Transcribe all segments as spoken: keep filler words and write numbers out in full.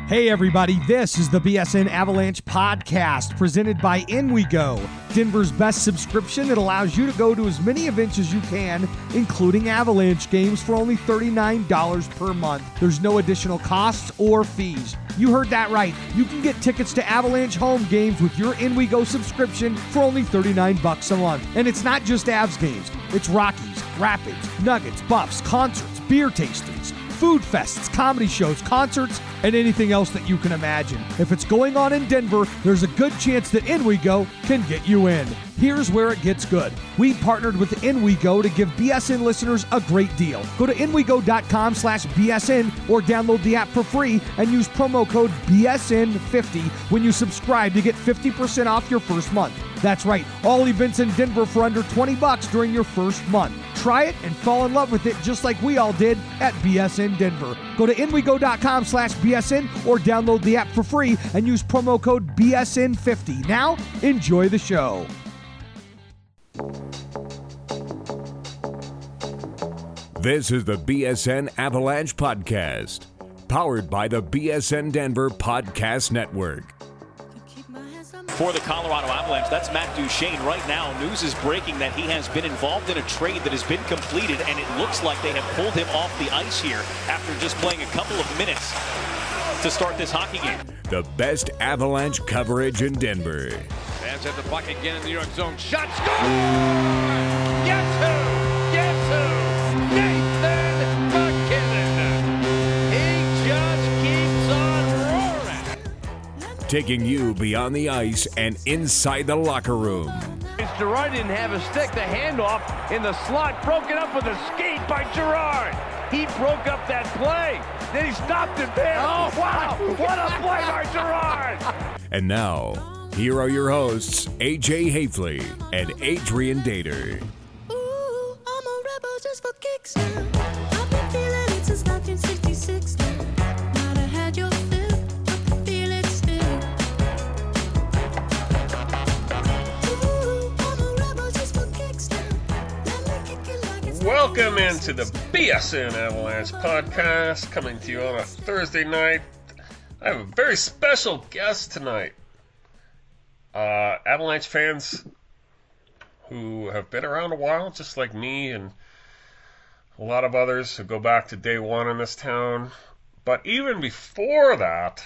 Hey everybody, this is the B S N Avalanche podcast presented by InWeGo, Denver's best subscription that allows you to go to as many events as you can, including Avalanche games for only thirty-nine dollars per month. There's no additional costs or fees. You heard that right. You can get tickets to Avalanche home games with your InWeGo subscription for only thirty-nine bucks a month. And it's not just Avs games. It's Rockies, Rapids, Nuggets, Buffs, concerts, beer tastings, food fests, comedy shows, concerts, and anything else that you can imagine. If it's going on in Denver, there's a good chance that InWeGo can get you in. Here's where it gets good. We partnered with InWeGo to give B S N listeners a great deal. Go to InWeGo.com slash BSN or download the app for free and use promo code B S N fifty when you subscribe to get fifty percent off your first month. That's right, all events in Denver for under twenty bucks during your first month. Try it and fall in love with it just like we all did at B S N Denver. Go to InWeGo.com slash BSN or download the app for free and use promo code B S N fifty. Now, enjoy the show. This is the B S N Avalanche Podcast, powered by the B S N Denver Podcast Network. For the Colorado Avalanche, that's Matt Duchene. Right now, news is breaking that he has been involved in a trade that has been completed, and it looks like they have pulled him off the ice here after just playing a couple of minutes to start this hockey game. The best Avalanche coverage in Denver. Fans have the puck again in the New York zone. Shot, score! Guess who? Guess who? Nathan MacKinnon. He just keeps on roaring. Taking you beyond the ice and inside the locker room. Girard didn't have a stick. The handoff in the slot, broken up with a skate by Girard. He broke up that play. Then he stopped it there. Oh, wow. What a play by Girard. And now, here are your hosts, A J Hafley and Adrian Dater. Ooh, I'm a rebel just for kicks now. I've been feeling it since nineteen sixty-six now. Might have had your fill, I can feel it still. Ooh, I'm a rebel just for kicks now. Let me kick it like it's Welcome into the B S N Avalanche podcast, coming to you on a Thursday night. I have a very special guest tonight. Uh, Avalanche fans who have been around a while, just like me and a lot of others who go back to day one in this town. But even before that,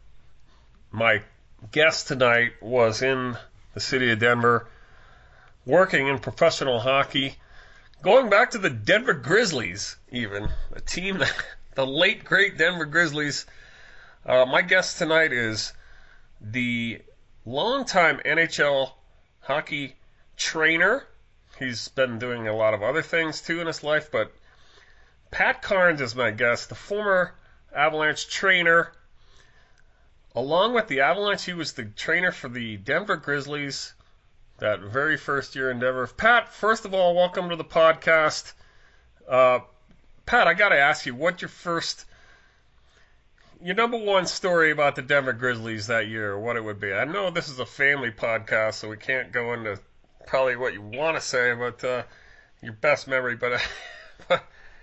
my guest tonight was in the city of Denver, working in professional hockey, going back to the Denver Grizzlies, even, a team that, the late, great Denver Grizzlies. Uh, my guest tonight is the longtime N H L hockey trainer. He's been doing a lot of other things too in his life, but Pat Cairns is my guest, the former Avalanche trainer. Along with the Avalanche, he was the trainer for the Denver Grizzlies that very first year in Denver. Pat, first of all, welcome to the podcast. Uh, Pat, I got to ask you, what's your first, your number one story about the Denver Grizzlies that year, what it would be? I know this is a family podcast, so we can't go into probably what you want to say about uh, your best memory, but, uh,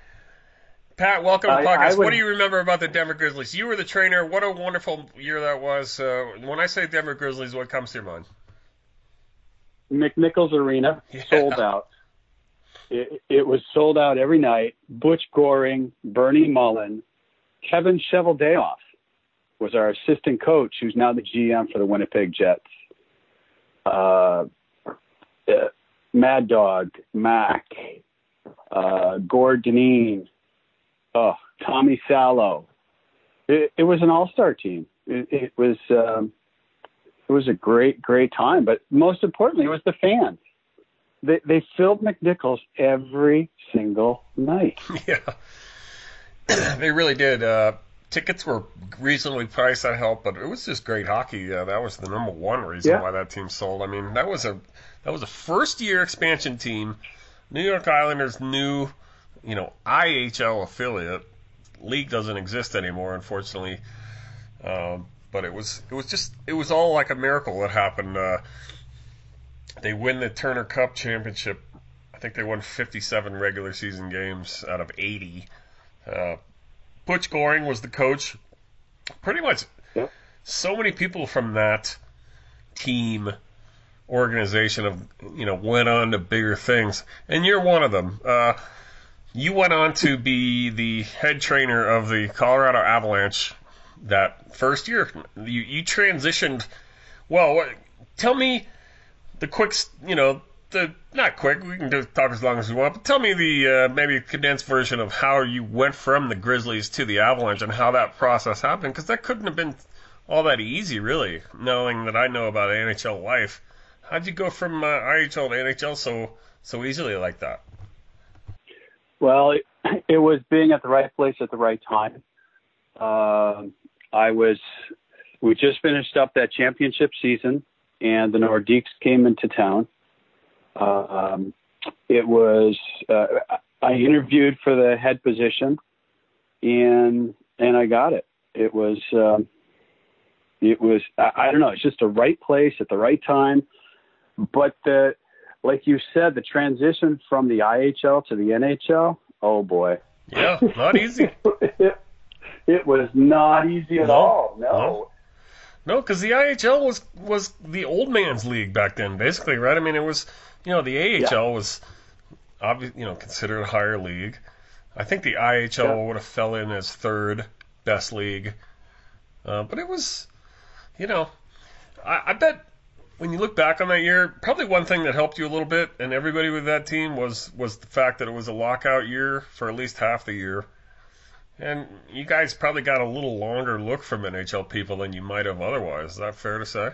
Pat, welcome to the podcast. Would... What do you remember about the Denver Grizzlies? You were the trainer. What a wonderful year that was. Uh, when I say Denver Grizzlies, what comes to your mind? McNichols Arena, yeah. Sold out. It, it was sold out every night. Butch Goring, Bernie Mullen, Kevin Cheveldayoff was our assistant coach, who's now the G M for the Winnipeg Jets. Uh, uh, Mad Dog, Mac, uh, Gord Dineen, oh, Tommy Sallow. It, it was an all-star team. It, it was um, it was a great, great time. But most importantly, it was the fans. They, they filled McNichols every single night. Yeah. They really did. Uh, tickets were reasonably priced, that helped, but it was just great hockey. Uh, that was the number one reason yeah. why that team sold. I mean, that was a that was a first year expansion team. New York Islanders' new, you know, I H L affiliate. League doesn't exist anymore, unfortunately. Um, but it was it was just it was all like a miracle that happened. Uh, they win the Turner Cup championship. I think they won fifty-seven regular season games out of eighty. Uh, Butch Goring was the coach. pretty much Yep. so many people from that team organization of you know went on to bigger things, and you're one of them. Uh, you went on to be the head trainer of the Colorado Avalanche that first year. You, you transitioned. Well, what, tell me the quick, you know, the not quick. We can just talk as long as we want, but tell me the uh, maybe condensed version of how you went from the Grizzlies to the Avalanche and how that process happened, because that couldn't have been all that easy, really. Knowing that I know about N H L life, how'd you go from uh, I H L to N H L so so easily like that? Well, it, it was being at the right place at the right time. Uh, I was. We just finished up that championship season, and the Nordiques came into town. Uh, um, it was. Uh, I interviewed for the head position, and and I got it. It was. Um, it was. I, I don't know. It's just the right place at the right time. But the, like you said, the transition from the I H L to the N H L. Oh boy. Yeah, not easy. it, it was not easy at No, all. No. no. No, because the I H L was was the old man's league back then, basically, right? I mean, it was, you know, the A H L Yeah. was, obviously, you know, considered a higher league. I think the I H L Yeah. would have fell in as third best league, uh, but it was, you know, I, I bet when you look back on that year, probably one thing that helped you a little bit, and everybody with that team was was the fact that it was a lockout year for at least half the year. And you guys probably got a little longer look from N H L people than you might have otherwise. Is that fair to say?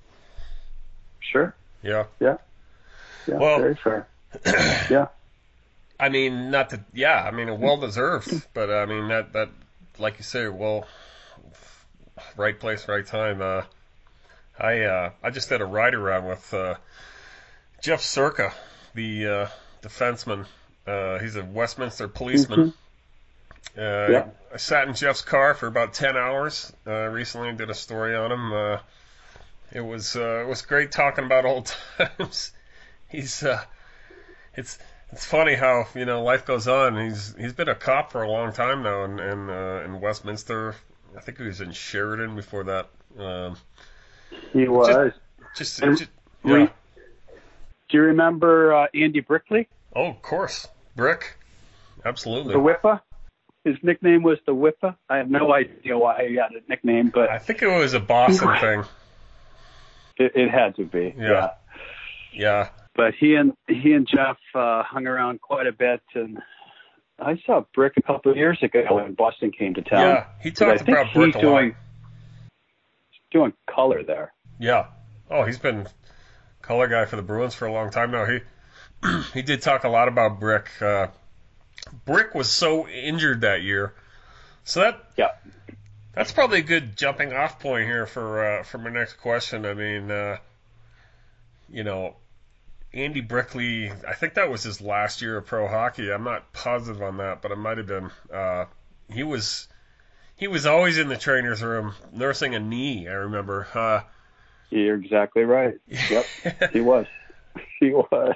Sure. Yeah. Yeah. Yeah. Well- very fair. Yeah. I mean, not that. Yeah, I mean, well deserved. But I mean, that that like you say, well, right place, right time. Uh, I uh, I just did a ride around with uh, Jeff Circa, the uh, defenseman. Uh, he's a Westminster policeman. Uh, Yeah. I sat in Jeff's car for about ten hours uh, recently and did a story on him. Uh, it was uh, it was great talking about old times. He's uh, it's it's funny how you know life goes on. He's he's been a cop for a long time now in in, uh, in Westminster. I think he was in Sheridan before that. Um, He was. just, And just we- yeah. Do you remember uh, Andy Brickley, Oh, of course, Brick. Absolutely. the Whippa? His nickname was the Whippa. I have no idea why he had a nickname, but I think it was a Boston thing. it, it had to be. Yeah. Yeah. But he and he and Jeff uh, hung around quite a bit, and I saw Brick a couple of years ago when Boston came to town. Yeah. He But I talked think about Brick he's a lot. doing doing color there. Yeah. Oh, he's been color guy for the Bruins for a long time now. He he did talk a lot about Brick. Uh, Brick was so injured that year, so that Yeah. that's probably a good jumping off point here for uh, for my next question. I mean, uh, you know, Andy Brickley. I think that was his last year of pro hockey. I'm not positive on that, but it might have been. Uh, he was he was always in the trainer's room nursing a knee. I remember. Uh, You're exactly right. Yep, he was. He was.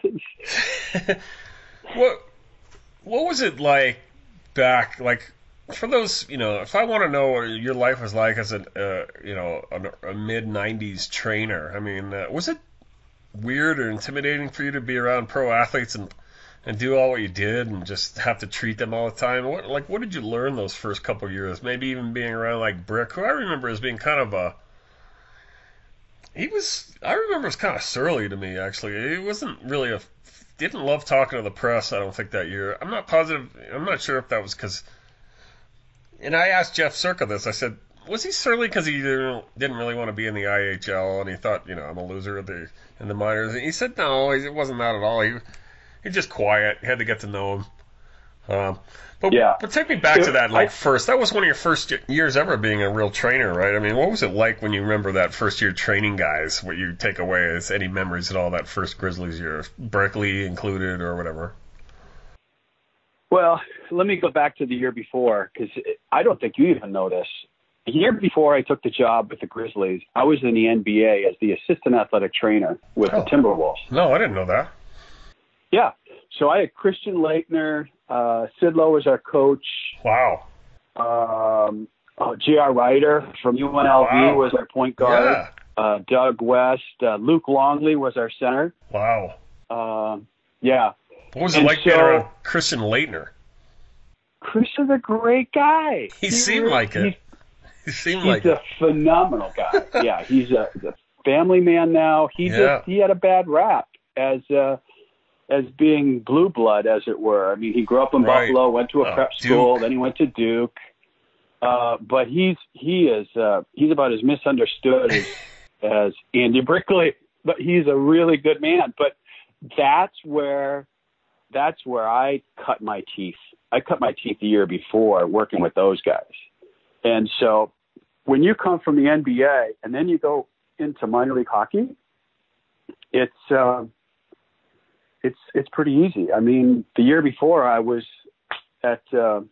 What what was it like back, like for those, you know, if I want to know what your life was like as a, uh, you know, a, a mid nineties trainer, I mean, uh, was it weird or intimidating for you to be around pro athletes and and do all what you did and just have to treat them all the time? What like what did you learn those first couple of years? Maybe even being around like Brick, who I remember as being kind of a He was, I remember, it was kind of surly to me, actually. He wasn't really a, didn't love talking to the press, I don't think, that year. I'm not positive, I'm not sure if that was because, and I asked Jeff Circa this, I said, was he surly because he didn't, didn't really want to be in the I H L and he thought, you know, I'm a loser in the, in the minors? And he said, no, it wasn't that at all. He, he just quiet, he had to get to know him. Um, but, Yeah. but take me back to that, like, I- first. That was one of your first years ever being a real trainer, right? I mean, what was it like when you remember that first year training guys? What you take away as any memories at all that first Grizzlies year, Berkeley included or whatever? Well, let me go back to the year before, because I don't think you even know this. The year before I took the job with the Grizzlies, I was in the N B A as the assistant athletic trainer with Oh. the Timberwolves. No, I didn't know that. Yeah. So I had Christian Leitner, uh, Sid Lowe was our coach. Wow. Um, Oh, J R. Ryder from U N L V Wow. was our point guard. Yeah. Uh, Doug West. Uh, Luke Longley was our center. Wow. Uh, yeah. What was it And like being so- around Christian Leitner? Chris is a great guy. He seemed like it. he's- He seemed He's like a it. phenomenal guy. Yeah, he's a, he's a family man now. He Yeah. just he had a bad rap as uh, as being blue blood, as it were. I mean, he grew up in Right. Buffalo, went to a Oh, prep school, Duke. then he went to Duke. Uh, but he's he is uh, he's about as misunderstood as, as Andy Brickley. But he's a really good man. But that's where that's where I cut my teeth. I cut my teeth the year before working with those guys. And so when you come from the N B A and then you go into minor league hockey, it's uh, it's it's pretty easy. I mean, the year before I was at uh,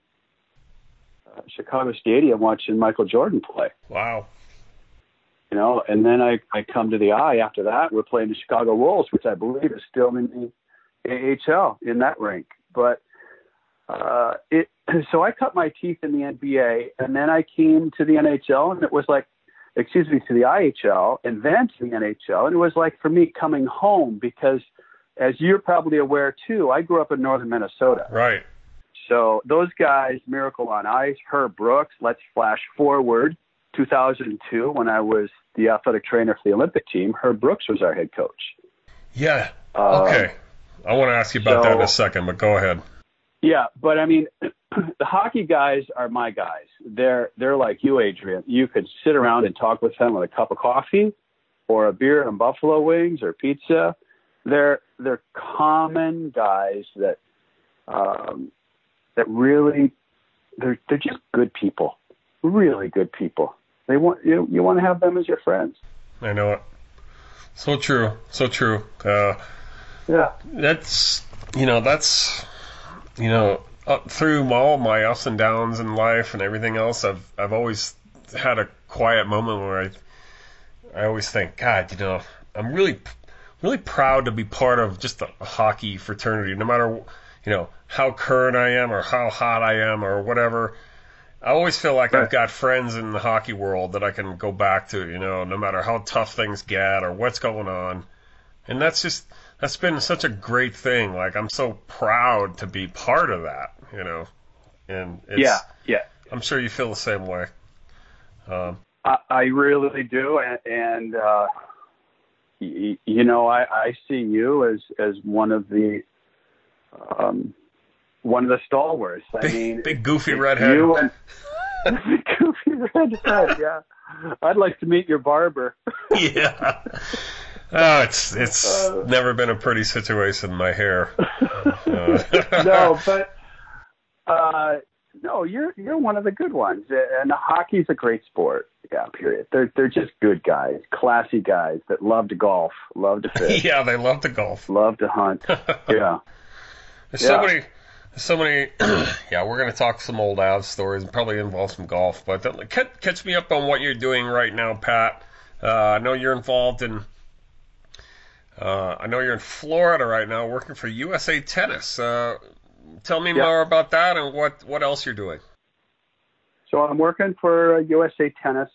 Chicago Stadium watching Michael Jordan play. Wow. You know, and then I, I come to the I after that. We're playing the Chicago Wolves, which I believe is still in the A H L in that rink. But uh, it so I cut my teeth in the N B A, and then I came to the N H L, and it was like, excuse me, to the I H L, and then to the N H L, and it was like for me coming home because, as you're probably aware too, I grew up in northern Minnesota. Right. So those guys, Miracle on Ice, Herb Brooks, let's flash forward two thousand two when I was the athletic trainer for the Olympic team. Herb Brooks was our head coach. Yeah. Uh, Okay. I want to ask you about so- that in a second, but go ahead. Yeah, but I mean, the hockey guys are my guys. They're they're like you, Adrian. You could sit around and talk with them with a cup of coffee, or a beer and buffalo wings or pizza. They're they're common guys that um, that really they're they're just good people, really good people. They want you you want to have them as your friends. I know it. So true. So true. Uh, Yeah. that's, you know, that's, you know, up through all my ups and downs in life and everything else, I've I've always had a quiet moment where I I always think, God, you know, I'm really really proud to be part of just a hockey fraternity, no matter, you know, how current I am or how hot I am or whatever. I always feel like I've got friends in the hockey world that I can go back to, you know, no matter how tough things get or what's going on. And that's just, that's been such a great thing. Like, I'm so proud to be part of that, you know. And it's, Yeah, yeah. I'm sure you feel the same way. Um, I, I really do, and, and uh, y- you know, I, I see you as as one of the um, one of the stalwarts. I big, mean, big goofy redhead. you and goofy redhead. Yeah, I'd like to meet your barber. Yeah. Oh, it's it's Uh, never been a pretty situation. My hair. Uh, No, but uh, no, you're you're one of the good ones, and hockey's a great sport. Yeah, period. They're they're just good guys, classy guys that love to golf, love to fish, yeah, they love to golf. love to hunt. Yeah. There's so Yeah. many, there's so many. Yeah, we're gonna talk some old Avs stories and probably involve some golf. But uh, catch, catch me up on what you're doing right now, Pat. Uh, I know you're involved in. Uh, I know you're in Florida right now, working for U S A Tennis. Uh, tell me Yeah. more about that and what what else you're doing. So I'm working for U S A Tennis,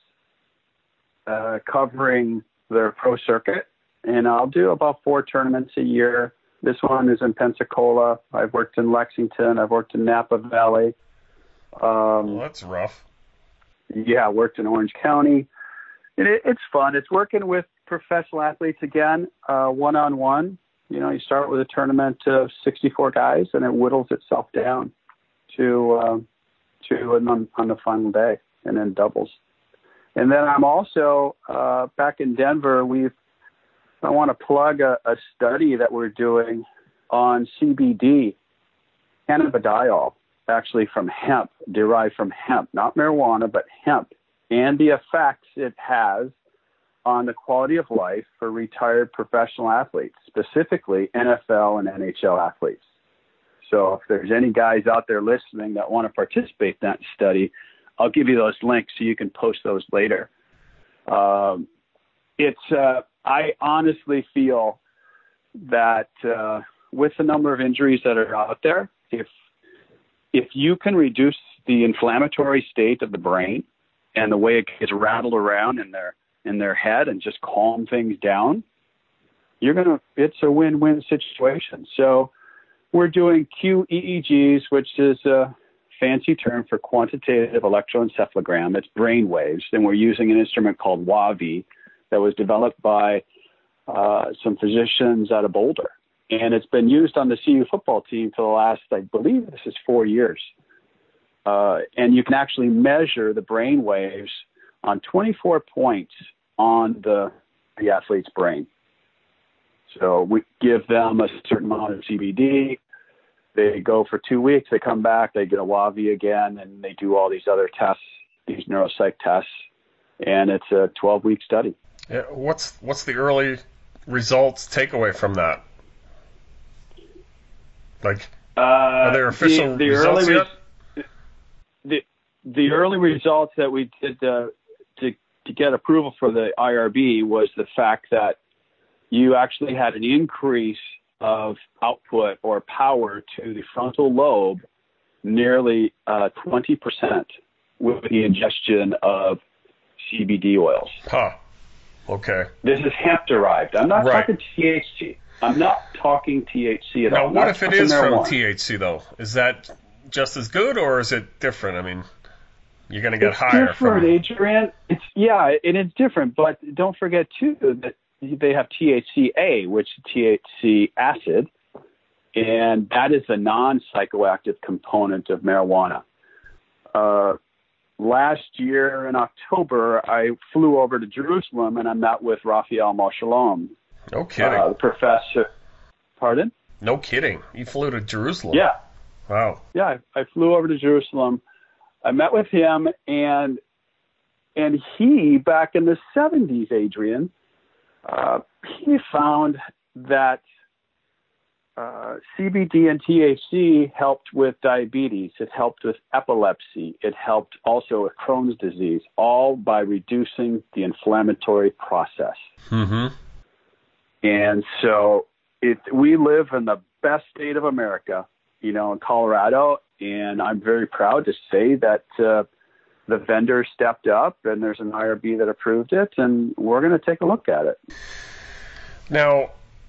uh, covering their pro circuit, and I'll do about four tournaments a year. This one is in Pensacola. I've worked in Lexington. I've worked in Napa Valley. Um, Well, that's rough. yeah, I worked in Orange County. And it, it's fun. It's working with professional athletes again, uh, one-on-one. You know, you start with a tournament of sixty-four guys, and it whittles itself down to uh, to and on, on the final day, and then doubles. And then I'm also uh, back in Denver. We've I want to plug a, a study that we're doing on C B D, cannabidiol, actually from hemp, derived from hemp, not marijuana, but hemp, and the effects it has on the quality of life for retired professional athletes, specifically N F L and N H L athletes. So if there's any guys out there listening that want to participate in that study, I'll give you those links so you can post those later. Um, it's uh, I honestly feel that uh, with the number of injuries that are out there, if if you can reduce the inflammatory state of the brain and the way it gets rattled around in their in their head and just calm things down, you're gonna it's a win-win situation. So we're doing Q E E Gs, which is a fancy term for quantitative electroencephalogram. It's brain waves, and we're using an instrument called W A V I that was developed by uh, some physicians out of Boulder. And it's been used on the C U football team for the last, I believe this is four years. Uh, and you can actually measure the brain waves on twenty-four points on the, the athlete's brain. So we give them a certain amount of C B D. They go for two weeks. They come back. They get a W A V I again, and they do all these other tests, these neuropsych tests. And it's a twelve-week study. Yeah, what's what's the early results takeaway from that? Like, uh, are there official the, the results early yet? Re- the the early results that we did uh, to to get approval for the I R B was the fact that you actually had an increase of output or power to the frontal lobe nearly uh, twenty percent with the ingestion of C B D oils. Huh. Okay. This is hemp-derived. I'm not Right. talking T H C. I'm not talking T H C at Now, all. what Not if it talking is from marijuana. T H C, though? Is that just as good, or is it different? I mean, you're going to get It's higher different, from... Adrian. It's yeah, and it's different. But don't forget too that they have T H C A, which is T H C acid, and that is the non-psychoactive component of marijuana. Uh, last year in October, I flew over to Jerusalem and I met with Raphael Moshalom, No kidding. uh, the professor. Pardon? No kidding. You flew to Jerusalem. Yeah. Wow. Yeah, I, I flew over to Jerusalem. I met with him, and and he, back in the seventies, Adrian, uh, he found that uh, C B D and T H C helped with diabetes. It helped with epilepsy. It helped also with Crohn's disease, all by reducing the inflammatory process. Mm-hmm. And so it, we live in the best state of America, you know, in Colorado, and I'm very proud to say that uh, the vendor stepped up, and there's an I R B that approved it, and we're going to take a look at it. Now,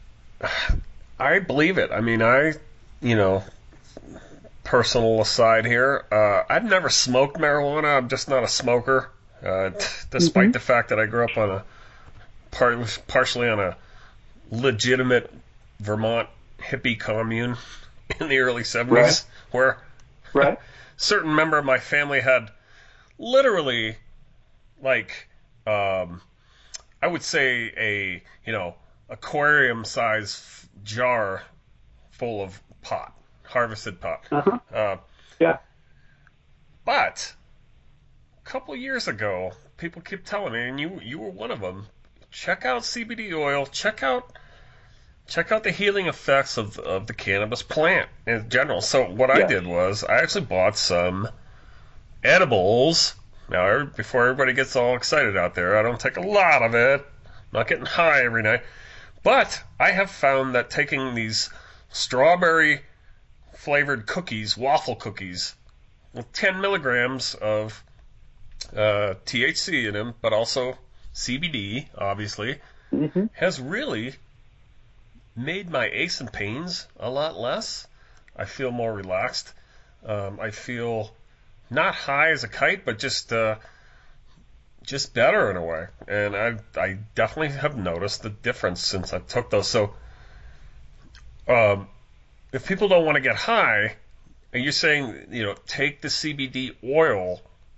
I believe it. I mean, I, you know, personal aside here, uh, I've never smoked marijuana. I'm just not a smoker, uh, t- despite Mm-hmm. the fact that I grew up on a, par- partially on a legitimate Vermont hippie commune in the early seventies, Right. where Right? certain member of my family had literally, like, um, I would say a, you know, aquarium size f- jar full of pot, harvested pot. Uh-huh. Uh, Yeah. but a couple years ago, people keep telling me, and you you were one of them, check out C B D oil, check out check out the healing effects of of the cannabis plant in general. So what I Yeah. did was I actually bought some edibles. Now, before everybody gets all excited out there, I don't take a lot of it. I'm not getting high every night. But I have found that taking these strawberry flavored cookies, waffle cookies, with ten milligrams of uh, T H C in them, but also C B D, obviously, Mm-hmm. has really made my aches and pains a lot less. I feel more relaxed. Um, I feel not high as a kite, but just uh, just better in a way. And I I definitely have noticed the difference since I took those. So um, if people don't want to get high, are you saying, you know, take the C B D oil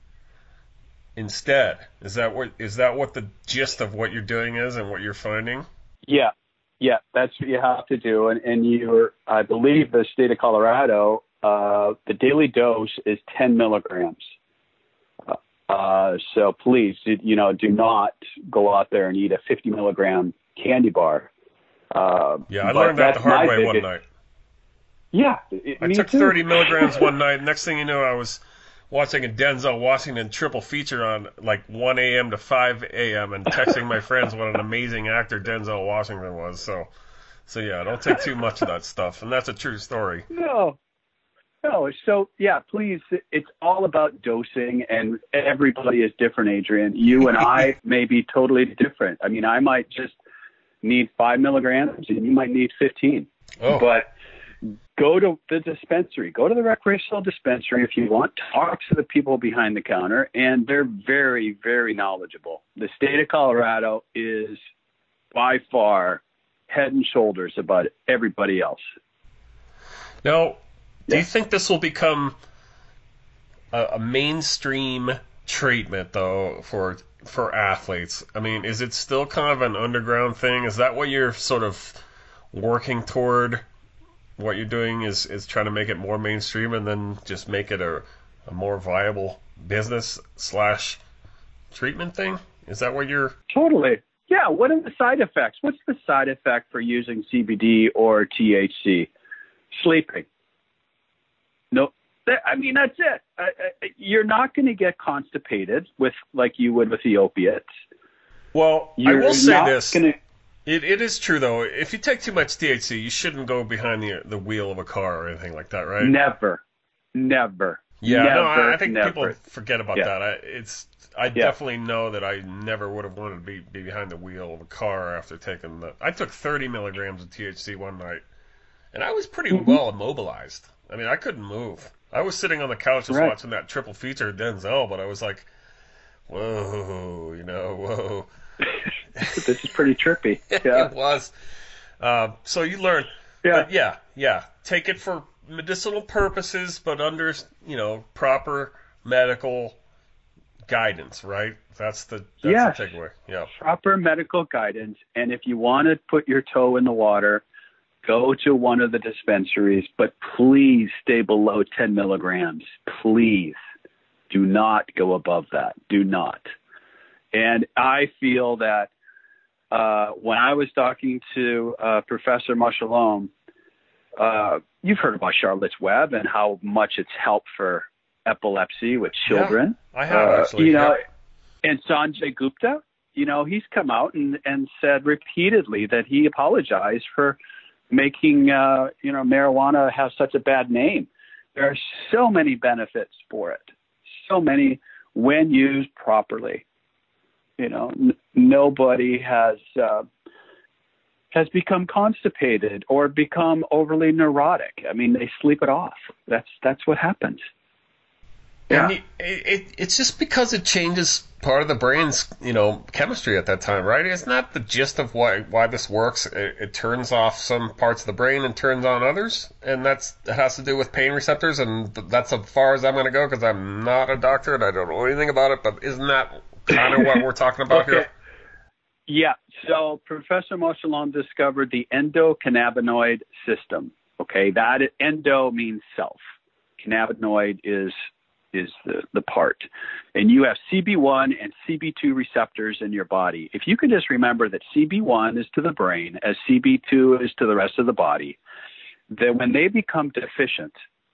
instead? Is that what is that what the gist of what you're doing is and what you're finding? Yeah. Yeah, that's what you have to do. And, and you're, I believe the state of Colorado, uh, the daily dose is ten milligrams. Uh, so please, you know, do not go out there and eat a fifty milligram candy bar. Uh, Yeah, I but learned that the that's hard my way one biggest- night. Yeah. It, I me took too. thirty milligrams one night. Next thing you know, I was watching a Denzel Washington triple feature on like one a.m. to five a.m. and texting my friends what an amazing actor Denzel Washington was. So, so yeah, don't take too much of that stuff. And that's a true story. No. No, so yeah, please. It's all about dosing, and everybody is different, Adrian. You and I may be totally different. I mean, I might just need five milligrams, and you might need fifteen. Oh. But go to the dispensary, go to the recreational dispensary if you want. Talk to the people behind the counter, and they're very, very knowledgeable. The state of Colorado is by far head and shoulders above everybody else. Now, do Yeah. you think this will become a, a mainstream treatment, though, for for athletes? I mean, is it still kind of an underground thing? Is that what you're sort of working toward? What you're doing is, is trying to make it more mainstream and then just make it a, a more viable business slash treatment thing? Is that what you're... Totally. Yeah, what are the side effects? What's the side effect for using C B D or T H C? Sleeping. No, that, I mean, that's it. Uh, uh, you're not going to get constipated with like you would with the opiates. Well, You're I will say not this. Gonna, It it is true though. If you take too much T H C, you shouldn't go behind the the wheel of a car or anything like that, right? never, never. Yeah, never, no, I, I think never. people forget about Yeah. that. I, it's I definitely know that I never would have wanted to be, be behind the wheel of a car after taking the. I took thirty milligrams of T H C one night, and I was pretty Mm-hmm. well immobilized. I mean, I couldn't move. I was sitting on the couch just Right. watching that triple feature of Denzel, but I was like, whoa, you know, whoa. This is pretty trippy. Yeah. It was. Uh, so you learn. Yeah. But yeah, yeah. Take it for medicinal purposes, but under, you know, proper medical guidance, right? That's the that's Yes. the takeaway. Yeah. Proper medical guidance. And if you want to put your toe in the water, go to one of the dispensaries, but please stay below ten milligrams. Please do not go above that. Do not. And I feel that uh, when I was talking to uh, Professor Mushalom, uh, you've heard about Charlotte's Web and how much it's helped for epilepsy with children. I have Uh, actually. You know, yeah. and Sanjay Gupta, you know, he's come out and, and said repeatedly that he apologized for making, uh, you know, marijuana have such a bad name. There are so many benefits for it, so many when used properly. You know, n- nobody has uh, has become constipated or become overly neurotic. I mean, they sleep it off. That's that's what happens. And you, it, it, it's just because it changes part of the brain's, you know, chemistry at that time, right? Isn't that the gist of why why this works? It, it turns off some parts of the brain and turns on others, and that's it has to do with pain receptors, and that's as far as I'm going to go because I'm not a doctor and I don't know anything about it. But isn't that kind of what we're talking about Okay. here? Yeah. So Professor Moshalom discovered the endocannabinoid system. Okay, that endo means self. Cannabinoid is is the, the part. And you have C B one and C B two receptors in your body. If you can just remember that C B one is to the brain as C B two is to the rest of the body, then when they become deficient,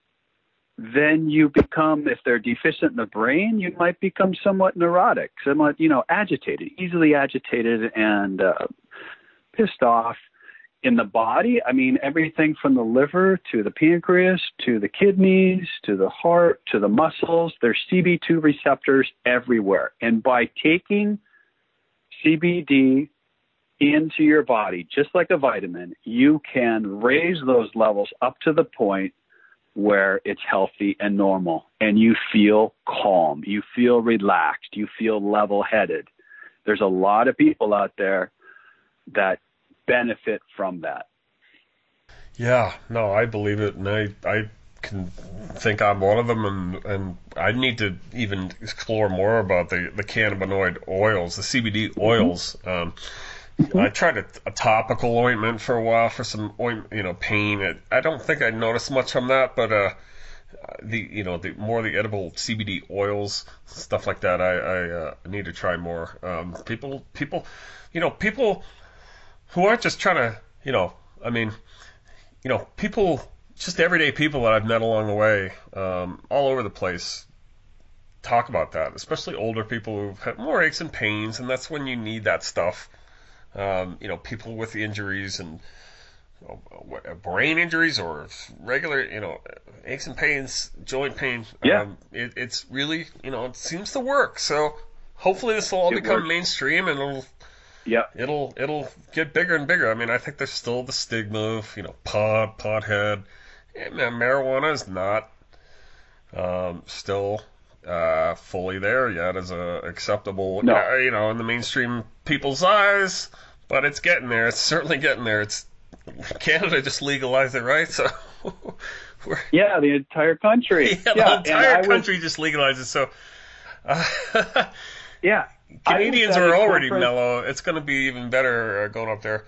then you become, if they're deficient in the brain, you might become somewhat neurotic, somewhat, you know, agitated, easily agitated and uh, pissed off. In the body, I mean, everything from the liver to the pancreas to the kidneys to the heart to the muscles, there's C B two receptors everywhere. And by taking C B D into your body, just like a vitamin, you can raise those levels up to the point where it's healthy and normal, and you feel calm, you feel relaxed, you feel level-headed. There's a lot of people out there that benefit from that. Yeah, no, I believe it, and I I can think I'm one of them, and and I need to even explore more about the the cannabinoid oils, the C B D oils. Um, I tried a, a topical ointment for a while for some oint, you know, pain. It, I don't think I noticed much from that, but uh, the you know the more the edible C B D oils, stuff like that, I I uh, need to try more. Um, people people, you know, people who aren't just trying to, you know, I mean, you know, people, just everyday people that I've met along the way, um, all over the place, talk about that, especially older people who've had more aches and pains, and that's when you need that stuff. Um, you know, people with injuries and brain injuries or regular, you know, aches and pains, joint pain. Yeah. Um, it, it's really, you know, it seems to work. So hopefully this will all It become works. mainstream and it'll, Yeah. it'll, it'll get bigger and bigger. I mean, I think there's still the stigma of, you know, pot, pothead. And marijuana is not um, still uh, fully there yet as a acceptable, No. uh, you know, in the mainstream people's eyes. But it's getting there. It's certainly getting there. It's Canada just legalized it, right? So we're, Yeah, the entire country. yeah, the yeah, and entire I was- country just legalized it. So uh, Yeah. Canadians I was at are a already conference- mellow. It's going to be even better uh, going up there.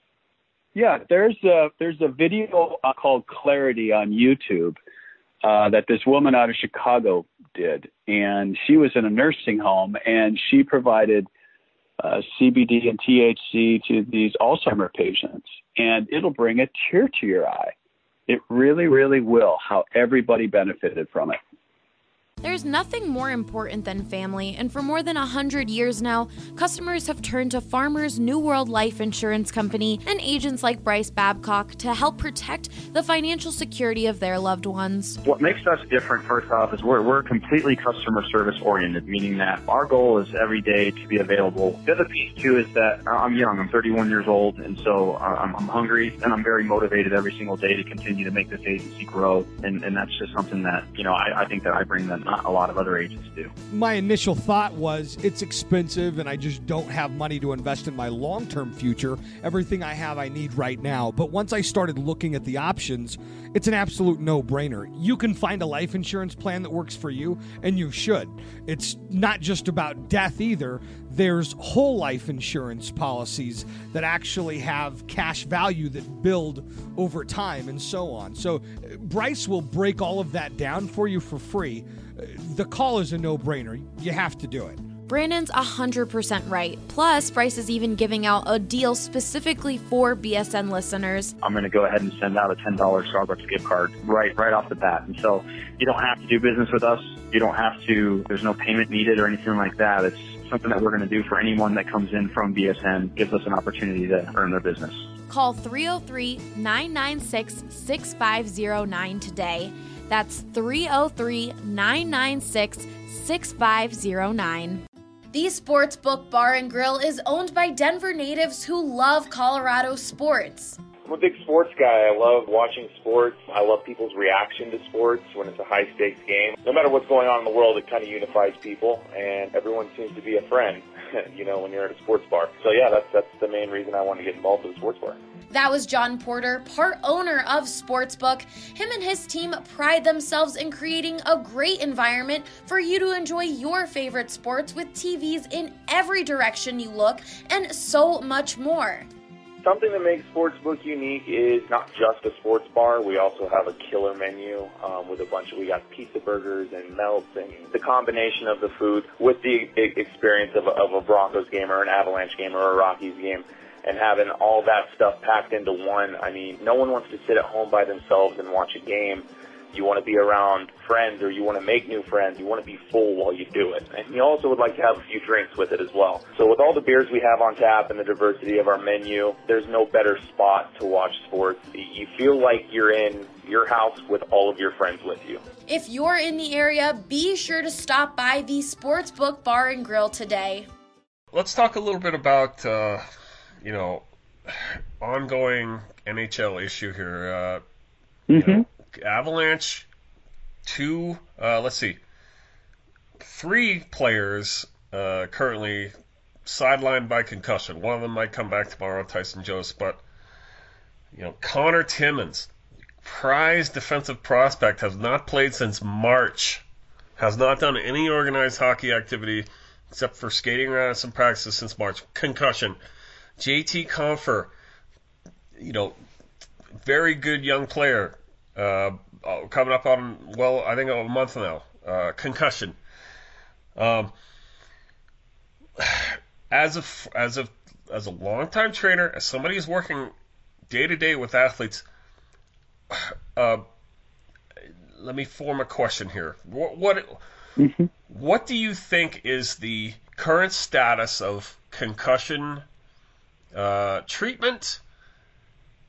Yeah, there's a there's a video uh, called Clarity on YouTube uh, that this woman out of Chicago did, and she was in a nursing home, and she provided uh, C B D and T H C to these Alzheimer patients, and it'll bring a tear to your eye. It really, really will. How everybody benefited from it. There's nothing more important than family, and for more than one hundred years now, customers have turned to Farmers New World Life Insurance Company and agents like Bryce Babcock to help protect the financial security of their loved ones. What makes us different, first off, is we're, we're completely customer service oriented, meaning that our goal is every day to be available. The other piece, too, is that I'm young. I'm thirty-one years old, and so I'm, I'm hungry, and I'm very motivated every single day to continue to make this agency grow, and, and that's just something that, you know, I, I think that I bring that not a lot of other agents do. My initial thought was it's expensive and I just don't have money to invest in my long-term future. Everything I have I need right now. But once I started looking at the options, it's an absolute no-brainer. You can find a life insurance plan that works for you, and you should. It's not just about death either. There's whole life insurance policies that actually have cash value that build over time and so on. So Bryce will break all of that down for you for free. The call is a no-brainer. You have to do it. Brandon's one hundred percent right. Plus, Bryce is even giving out a deal specifically for B S N listeners. I'm going to go ahead and send out a ten dollars Starbucks gift card right right off the bat. And so you don't have to do business with us. You don't have to, there's no payment needed or anything like that. It's something that we're going to do for anyone that comes in from B S N, gives us an opportunity to earn their business. Call three oh three, nine nine six, six five oh nine today. That's three oh three, nine nine six, six five oh nine. The Sportsbook Bar and Grill is owned by Denver natives who love Colorado sports. I'm a big sports guy. I love watching sports. I love people's reaction to sports when it's a high-stakes game. No matter what's going on in the world, it kind of unifies people, and everyone seems to be a friend, you know, when you're at a sports bar. So, yeah, that's that's the main reason I want to get involved with a sports bar. That was John Porter, part owner of Sportsbook. Him and his team pride themselves in creating a great environment for you to enjoy your favorite sports with T Vs in every direction you look and so much more. Something that makes Sportsbook unique is not just a sports bar. We also have a killer menu um, with a bunch of, we got pizza burgers and melts and the combination of the food with the experience of a, of a Broncos game or an Avalanche game or a Rockies game. And having all that stuff packed into one, I mean, no one wants to sit at home by themselves and watch a game. You want to be around friends or you want to make new friends. You want to be full while you do it. And you also would like to have a few drinks with it as well. So with all the beers we have on tap and the diversity of our menu, there's no better spot to watch sports. You feel like you're in your house with all of your friends with you. If you're in the area, be sure to stop by the Sportsbook Bar and Grill today. Let's talk a little bit about... Uh... you know, ongoing N H L issue here. Uh, Mm-hmm. you know, Avalanche, two, uh, let's see, three players uh, currently sidelined by concussion. One of them might come back tomorrow, Tyson Jost, but, you know, Connor Timmins, prized defensive prospect, has not played since March, has not done any organized hockey activity except for skating around some practices since March. Concussion. J T Compher, you know, very good young player, uh, coming up on, well, I think a month now, uh, concussion. Um, as a, as a, as a longtime trainer, as somebody who's working day to day with athletes, uh, let me form a question here. What, what, Mm-hmm. what do you think is the current status of concussion Uh, treatment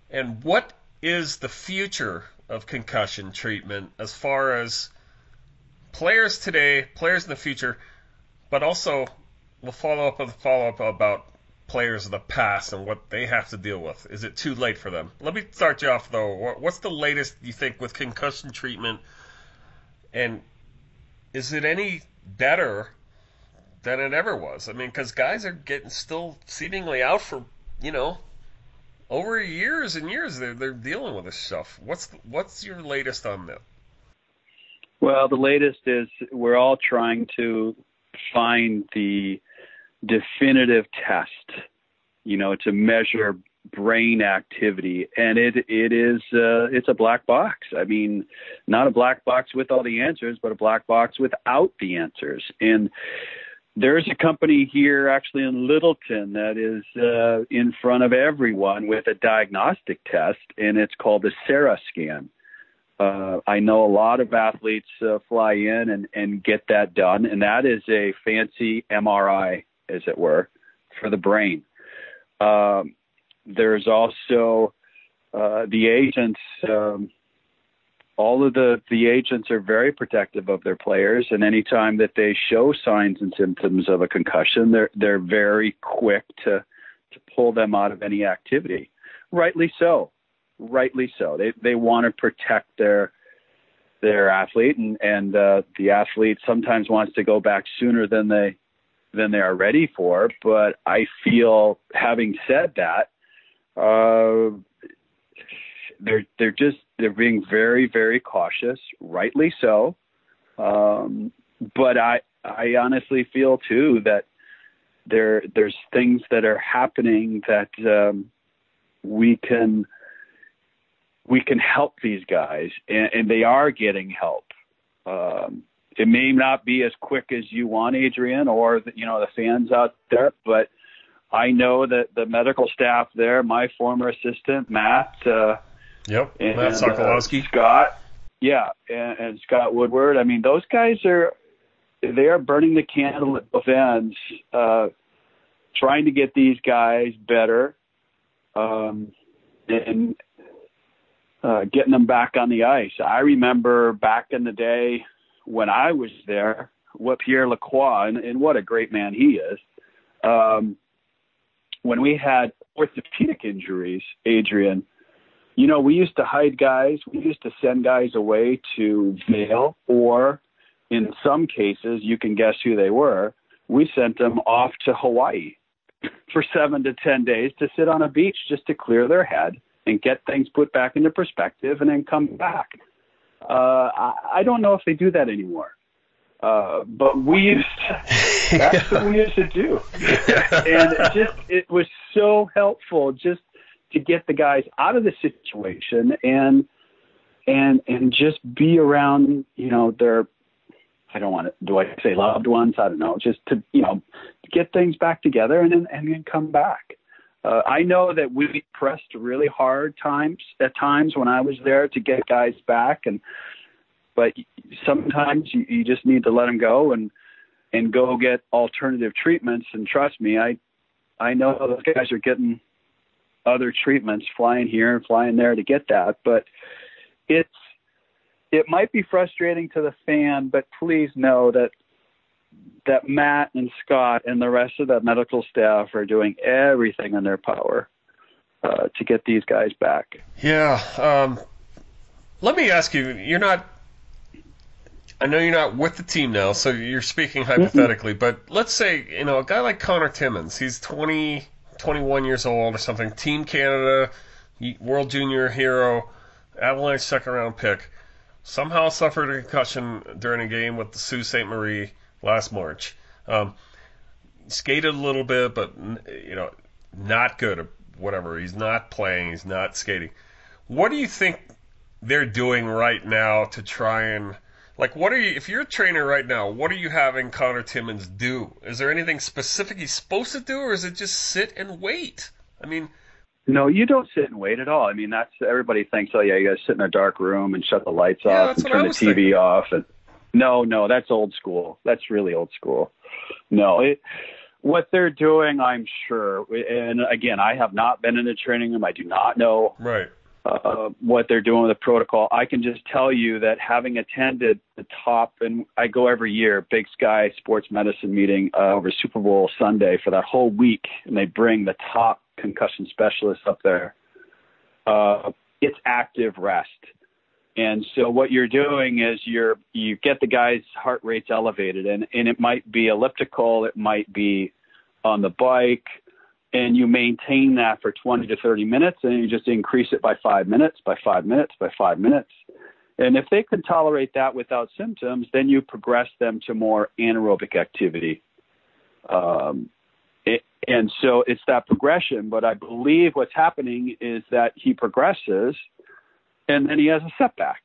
And what is the future of concussion treatment as far as players today, players in the future, but also we'll follow up with a follow-up about players of the past and what they have to deal with. Is it too late for them? Let me start you off, though. What's the latest, you think, with concussion treatment? And is it any better than it ever was? I mean, because guys are getting still seemingly out for, you know, over years and years. They're, they're dealing with this stuff. What's what's your latest on that? Well, the latest is we're all trying to find the definitive test, you know, to measure brain activity, and it it is uh, it's a black box. I mean, not a black box with all the answers, but a black box without the answers. And there's a company here actually in Littleton that is uh, in front of everyone with a diagnostic test, and it's called the Sarah scan. Uh, I know a lot of athletes uh, fly in and, and get that done, and that is a fancy M R I, as it were, for the brain. Um, there's also uh, the agents. Um, all of the, the agents are very protective of their players, and anytime that they show signs and symptoms of a concussion, they're they're very quick to to pull them out of any activity. Rightly so. Rightly so. They they want to protect their their athlete, and and uh, the athlete sometimes wants to go back sooner than they than they are ready for. But I feel, having said that, uh, they're they're just they're being very very cautious. Rightly so. Um, but I I honestly feel too that there there's things that are happening that um, we can. we can help these guys, and, and they are getting help. Um, it may not be as quick as you want, Adrian, or the, you know, the fans out there, but I know that the medical staff there, my former assistant, Matt, uh, yep, and, Matt Sokolowski, uh, Scott, yeah, and, and Scott Woodward. I mean, those guys are, they are burning the candle at both ends, uh, trying to get these guys better, um, and, Uh, getting them back on the ice. I remember back in the day when I was there, what Pierre Lacroix, and, and what a great man he is, um, when we had orthopedic injuries, Adrian, you know, we used to hide guys. We used to send guys away to Vail, or in some cases, you can guess who they were, we sent them off to Hawaii for seven to ten days to sit on a beach just to clear their head and get things put back into perspective and then come back. Uh, I, I don't know if they do that anymore. Uh, but we used to, that's what we used to do. And it just, it was so helpful just to get the guys out of the situation and, and, and just be around, you know, their, I don't want to, do I say loved ones? I don't know, just to, you know, get things back together and then, and then come back. Uh, I know that we pressed really hard times at times when I was there to get guys back, and but sometimes you, you just need to let them go and and go get alternative treatments. And trust me, I I know those guys are getting other treatments, flying here and flying there to get that. But it's it might be frustrating to the fan, but please know that. that Matt and Scott and the rest of that medical staff are doing everything in their power uh, to get these guys back. Yeah. Um, let me ask you, you're not, I know you're not with the team now, so you're speaking hypothetically, mm-hmm. but let's say, you know, a guy like Connor Timmins, he's twenty, twenty-one years old or something, Team Canada, World Junior hero, Avalanche second round pick, somehow suffered a concussion during a game with the Sault Ste. Marie last March. Um, skated a little bit, but, you know, not good or whatever. He's not playing. He's not skating. What do you think they're doing right now to try and, like, what are you, if you're a trainer right now, what are you having Connor Timmins do? Is there anything specific he's supposed to do, or is it just sit and wait? I mean... No, you don't sit and wait at all. I mean, that's, everybody thinks, oh, yeah, you got to sit in a dark room and shut the lights yeah, off and turn the T V thinking. off and... No, no, that's old school. That's really old school. No, it, what they're doing, I'm sure. And again, I have not been in a training room. I do not know right. uh, what they're doing with the protocol. I can just tell you that having attended the top, and I go every year, Big Sky Sports Medicine meeting uh, over Super Bowl Sunday for that whole week, and they bring the top concussion specialists up there. Uh, it's active rest. And so what you're doing is you're you get the guy's heart rates elevated, and, and it might be elliptical, it might be on the bike, and you maintain that for twenty to thirty minutes, and you just increase it by five minutes, by five minutes, by five minutes. And if they can tolerate that without symptoms, then you progress them to more anaerobic activity. Um, it, and so it's that progression, but I believe what's happening is that he progresses, and then he has a setback,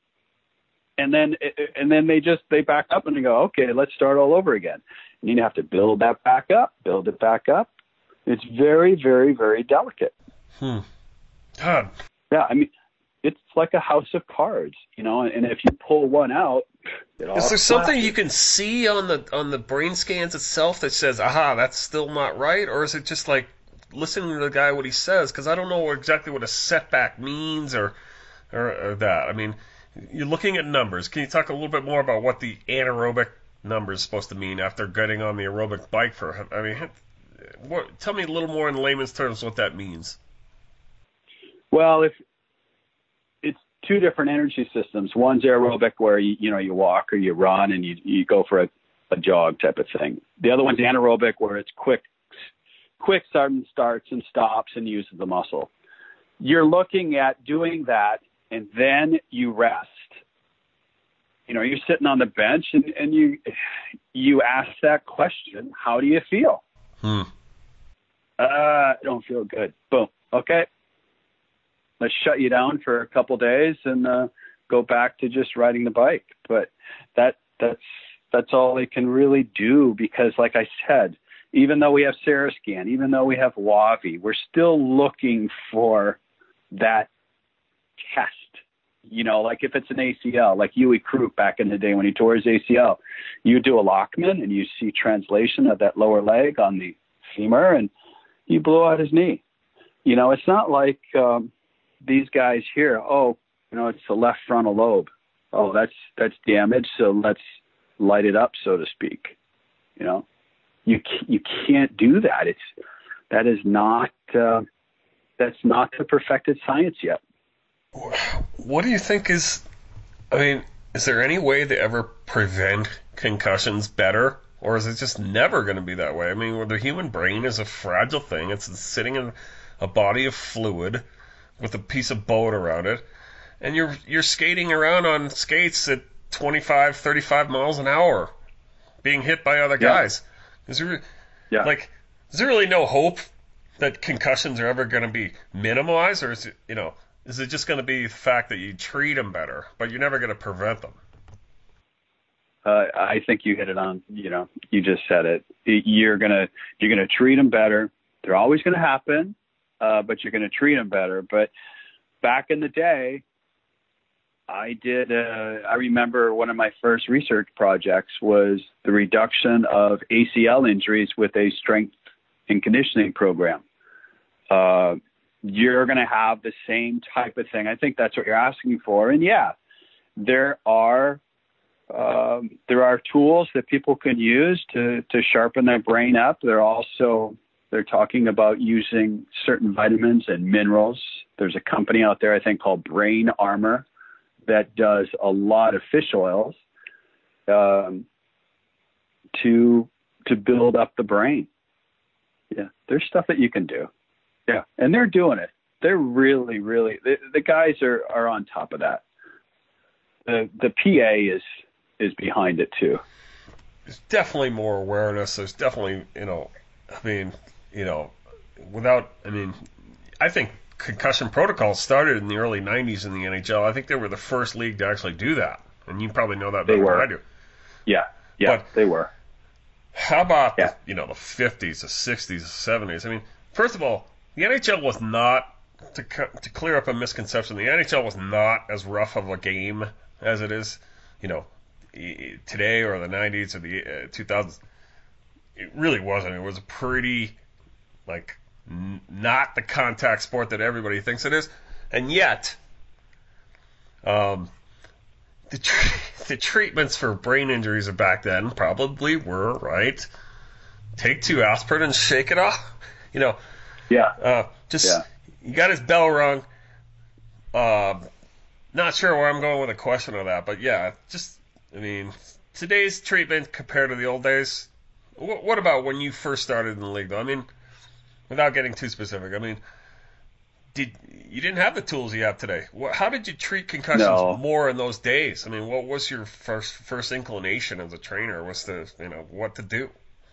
and then and then they just they back up and they go, okay, let's start all over again. And you have to build that back up, build it back up. It's very, very, very delicate. Hmm. God. Yeah, I mean, it's like a house of cards, you know. And if you pull one out, it all is there something flashes. you can see on the on the brain scans itself that says, aha, that's still not right, or is it just like listening to the guy what he says? Because I don't know exactly what a setback means or. Or, or that. I mean, you're looking at numbers. Can you talk a little bit more about what the anaerobic number is supposed to mean after getting on the aerobic bike for? I mean, what, tell me a little more in layman's terms what that means. Well, if it's two different energy systems. One's aerobic, where you you know you walk or you run and you you go for a, a jog type of thing. The other one's anaerobic, where it's quick, quick sudden starts and stops and uses the muscle. You're looking at doing that. And then you rest. You know, you're sitting on the bench and, and you you ask that question, how do you feel? Hmm. Uh, I don't feel good. Boom. Okay. Let's shut you down for a couple days and uh, go back to just riding the bike. But that that's that's all they can really do, because like I said, even though we have Seroscan, even though we have Wavi, we're still looking for that test. You know, like if it's an A C L, like Huey Croup back in the day when he tore his A C L, you do a Lockman and you see translation of that lower leg on the femur and you blow out his knee. You know, it's not like um, these guys here, oh, you know, it's the left frontal lobe. Oh, that's that's damaged, so let's light it up, so to speak. You know, you you can't do that. It's that is not uh, that's not the perfected science yet. What do you think is, I mean, is there any way to ever prevent concussions better? Or is it just never going to be that way? I mean, the human brain is a fragile thing. It's sitting in a body of fluid with a piece of boat around it. And you're you're skating around on skates at twenty-five, thirty-five miles an hour, being hit by other guys. Yeah. Is there, yeah. like, is there really no hope that concussions are ever going to be minimized? Or is it, you know... Is it just going to be the fact that you treat them better, but you're never going to prevent them? Uh, I think you hit it on. You know, you just said it. You're gonna you're gonna treat them better. They're always going to happen, uh, but you're going to treat them better. But back in the day, I did. Uh, I remember one of my first research projects was the reduction of A C L injuries with a strength and conditioning program. Uh, You're going to have the same type of thing. I think that's what you're asking for. And yeah, there are um, there are tools that people can use to to sharpen their brain up. They're also they're talking about using certain vitamins and minerals. There's a company out there I think called Brain Armor that does a lot of fish oils um, to to build up the brain. Yeah, there's stuff that you can do. Yeah, and they're doing it. They're really, really the, the guys are, are on top of that. The the P A is is behind it too. There's definitely more awareness. There's definitely, you know, I mean, you know, without, I mean, I think concussion protocols started in the early nineties in the N H L. I think they were the first league to actually do that, and you probably know that better than I do. Yeah, yeah, but they were. How about yeah. the, you know, the fifties, the sixties, the seventies? I mean, first of all, the N H L was not, to to clear up a misconception, the N H L was not as rough of a game as it is, you know, today or the nineties or the uh, two thousands. it really wasn't. It was a pretty, like, n- not the contact sport that everybody thinks it is. And yet, um, the, tr- the treatments for brain injuries back then probably were, right, take two aspirin and shake it off. You know, Yeah. uh, just, Yeah. you got his bell rung. Uh, not sure where I'm going with a question on that, but yeah, just, I mean, today's treatment compared to the old days, wh- what about when you first started in the league, though? I mean, without getting too specific, I mean, did you didn't have the tools you have today. What, how did you treat concussions No. more in those days? I mean, what was your first first inclination as a trainer? Was to, you know, what to do?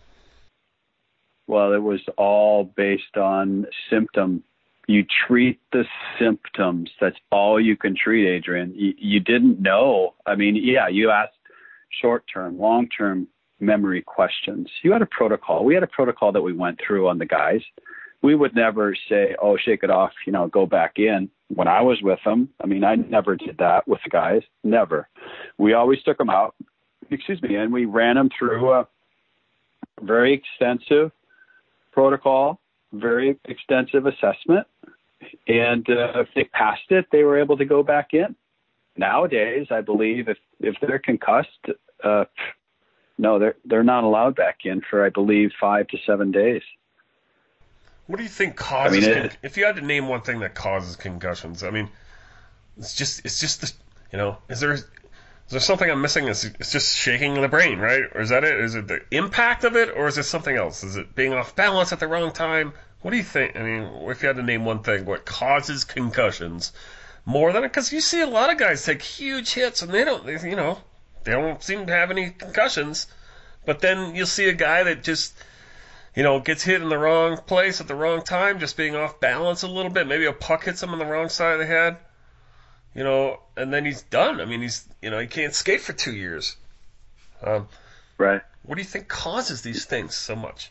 Well, it was all based on symptom. You treat the symptoms. That's all you can treat, Adrian. You, you didn't know. I mean, yeah, you asked short-term, long-term memory questions. You had a protocol. We had a protocol that we went through on the guys. We would never say, oh, shake it off, you know, go back in. When I was with them, I mean, I never did that with the guys. Never. We always took them out, excuse me, and we ran them through a very extensive protocol, very extensive assessment. And uh, if they passed it, they were able to go back in. Nowadays, I believe if, if they're concussed, uh, no, they're they're not allowed back in for, I believe, five to seven days. What do you think causes? I mean, it, con- if you had to name one thing that causes concussions, I mean, it's just it's just the, you know, is there is there something I'm missing? It's, it's just shaking the brain, right? Or is that it? Is it the impact of it, or is it something else? Is it being off balance at the wrong time? What do you think? I mean, if you had to name one thing, what causes concussions more than it? Because you see a lot of guys take huge hits and they don't, they, you know, they don't seem to have any concussions. But then you'll see a guy that just, you know, gets hit in the wrong place at the wrong time, just being off balance a little bit. Maybe a puck hits him on the wrong side of the head, you know, and then he's done. I mean, he's, you know, he can't skate for two years. Um, right. What do you think causes these things so much?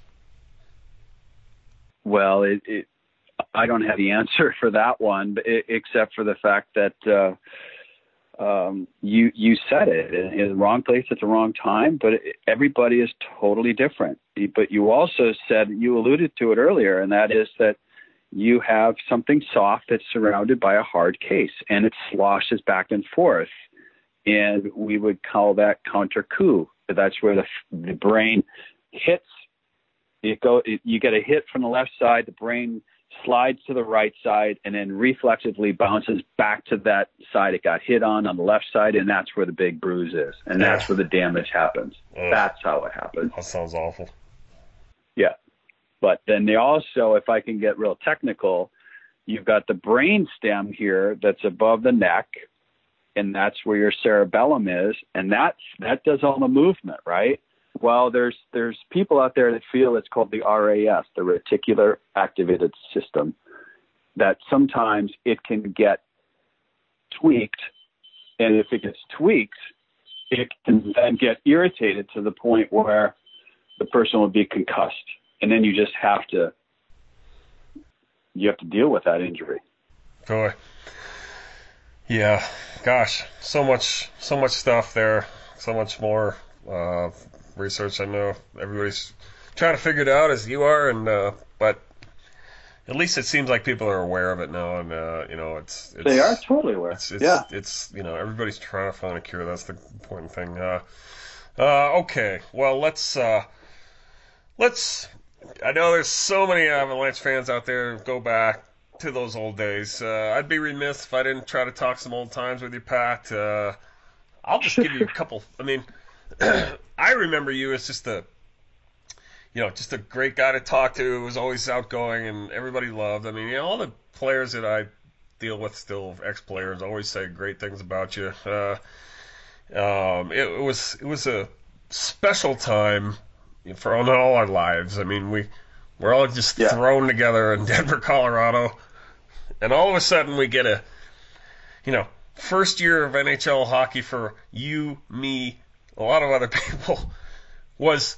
Well, it, it, I don't have the answer for that one, but it, except for the fact that uh, um, you you said it in, in the wrong place at the wrong time. But it, everybody is totally different. But you also said, you alluded to it earlier, and that is that you have something soft that's surrounded by a hard case, and it sloshes back and forth, and we would call that counter coup. That's where the the brain hits. It go, it, you get a hit from the left side, the brain slides to the right side, and then reflexively bounces back to that side it got hit on on the left side, and that's where the big bruise is, and that's where the damage happens. Ugh. That's how it happens. That sounds awful. Yeah. But then they also, if I can get real technical, you've got the brain stem here that's above the neck, and that's where your cerebellum is, and that's, that does all the movement, right? Well, there's there's people out there that feel it's called the R A S, the reticular activated system, that sometimes it can get tweaked, and if it gets tweaked, it can then get irritated to the point where the person will be concussed, and then you just have to you have to deal with that injury. Boy, yeah, gosh, so much so much stuff there, so much more. Uh, research. I know everybody's trying to figure it out as you are, and uh, but at least it seems like people are aware of it now, and uh, you know, it's, it's they are totally aware. It's, it's, yeah, it's you know, everybody's trying to find a cure. That's the important thing. Uh, uh, okay, well, let's uh, let's. I know there's so many Avalanche fans out there who go back to those old days. Uh, I'd be remiss if I didn't try to talk some old times with you, Pat. Uh, I'll just give you a couple. I mean. I remember you as just a, you know, just a great guy to talk to. Who was always outgoing and everybody loved. I mean, you know, all the players that I deal with, still ex-players, always say great things about you. Uh, um, it, it was it was a special time for all our lives. I mean, we we're all just yeah. thrown together in Denver, Colorado, and all of a sudden we get a, you know, first year of N H L hockey for you, me, a lot of other people, was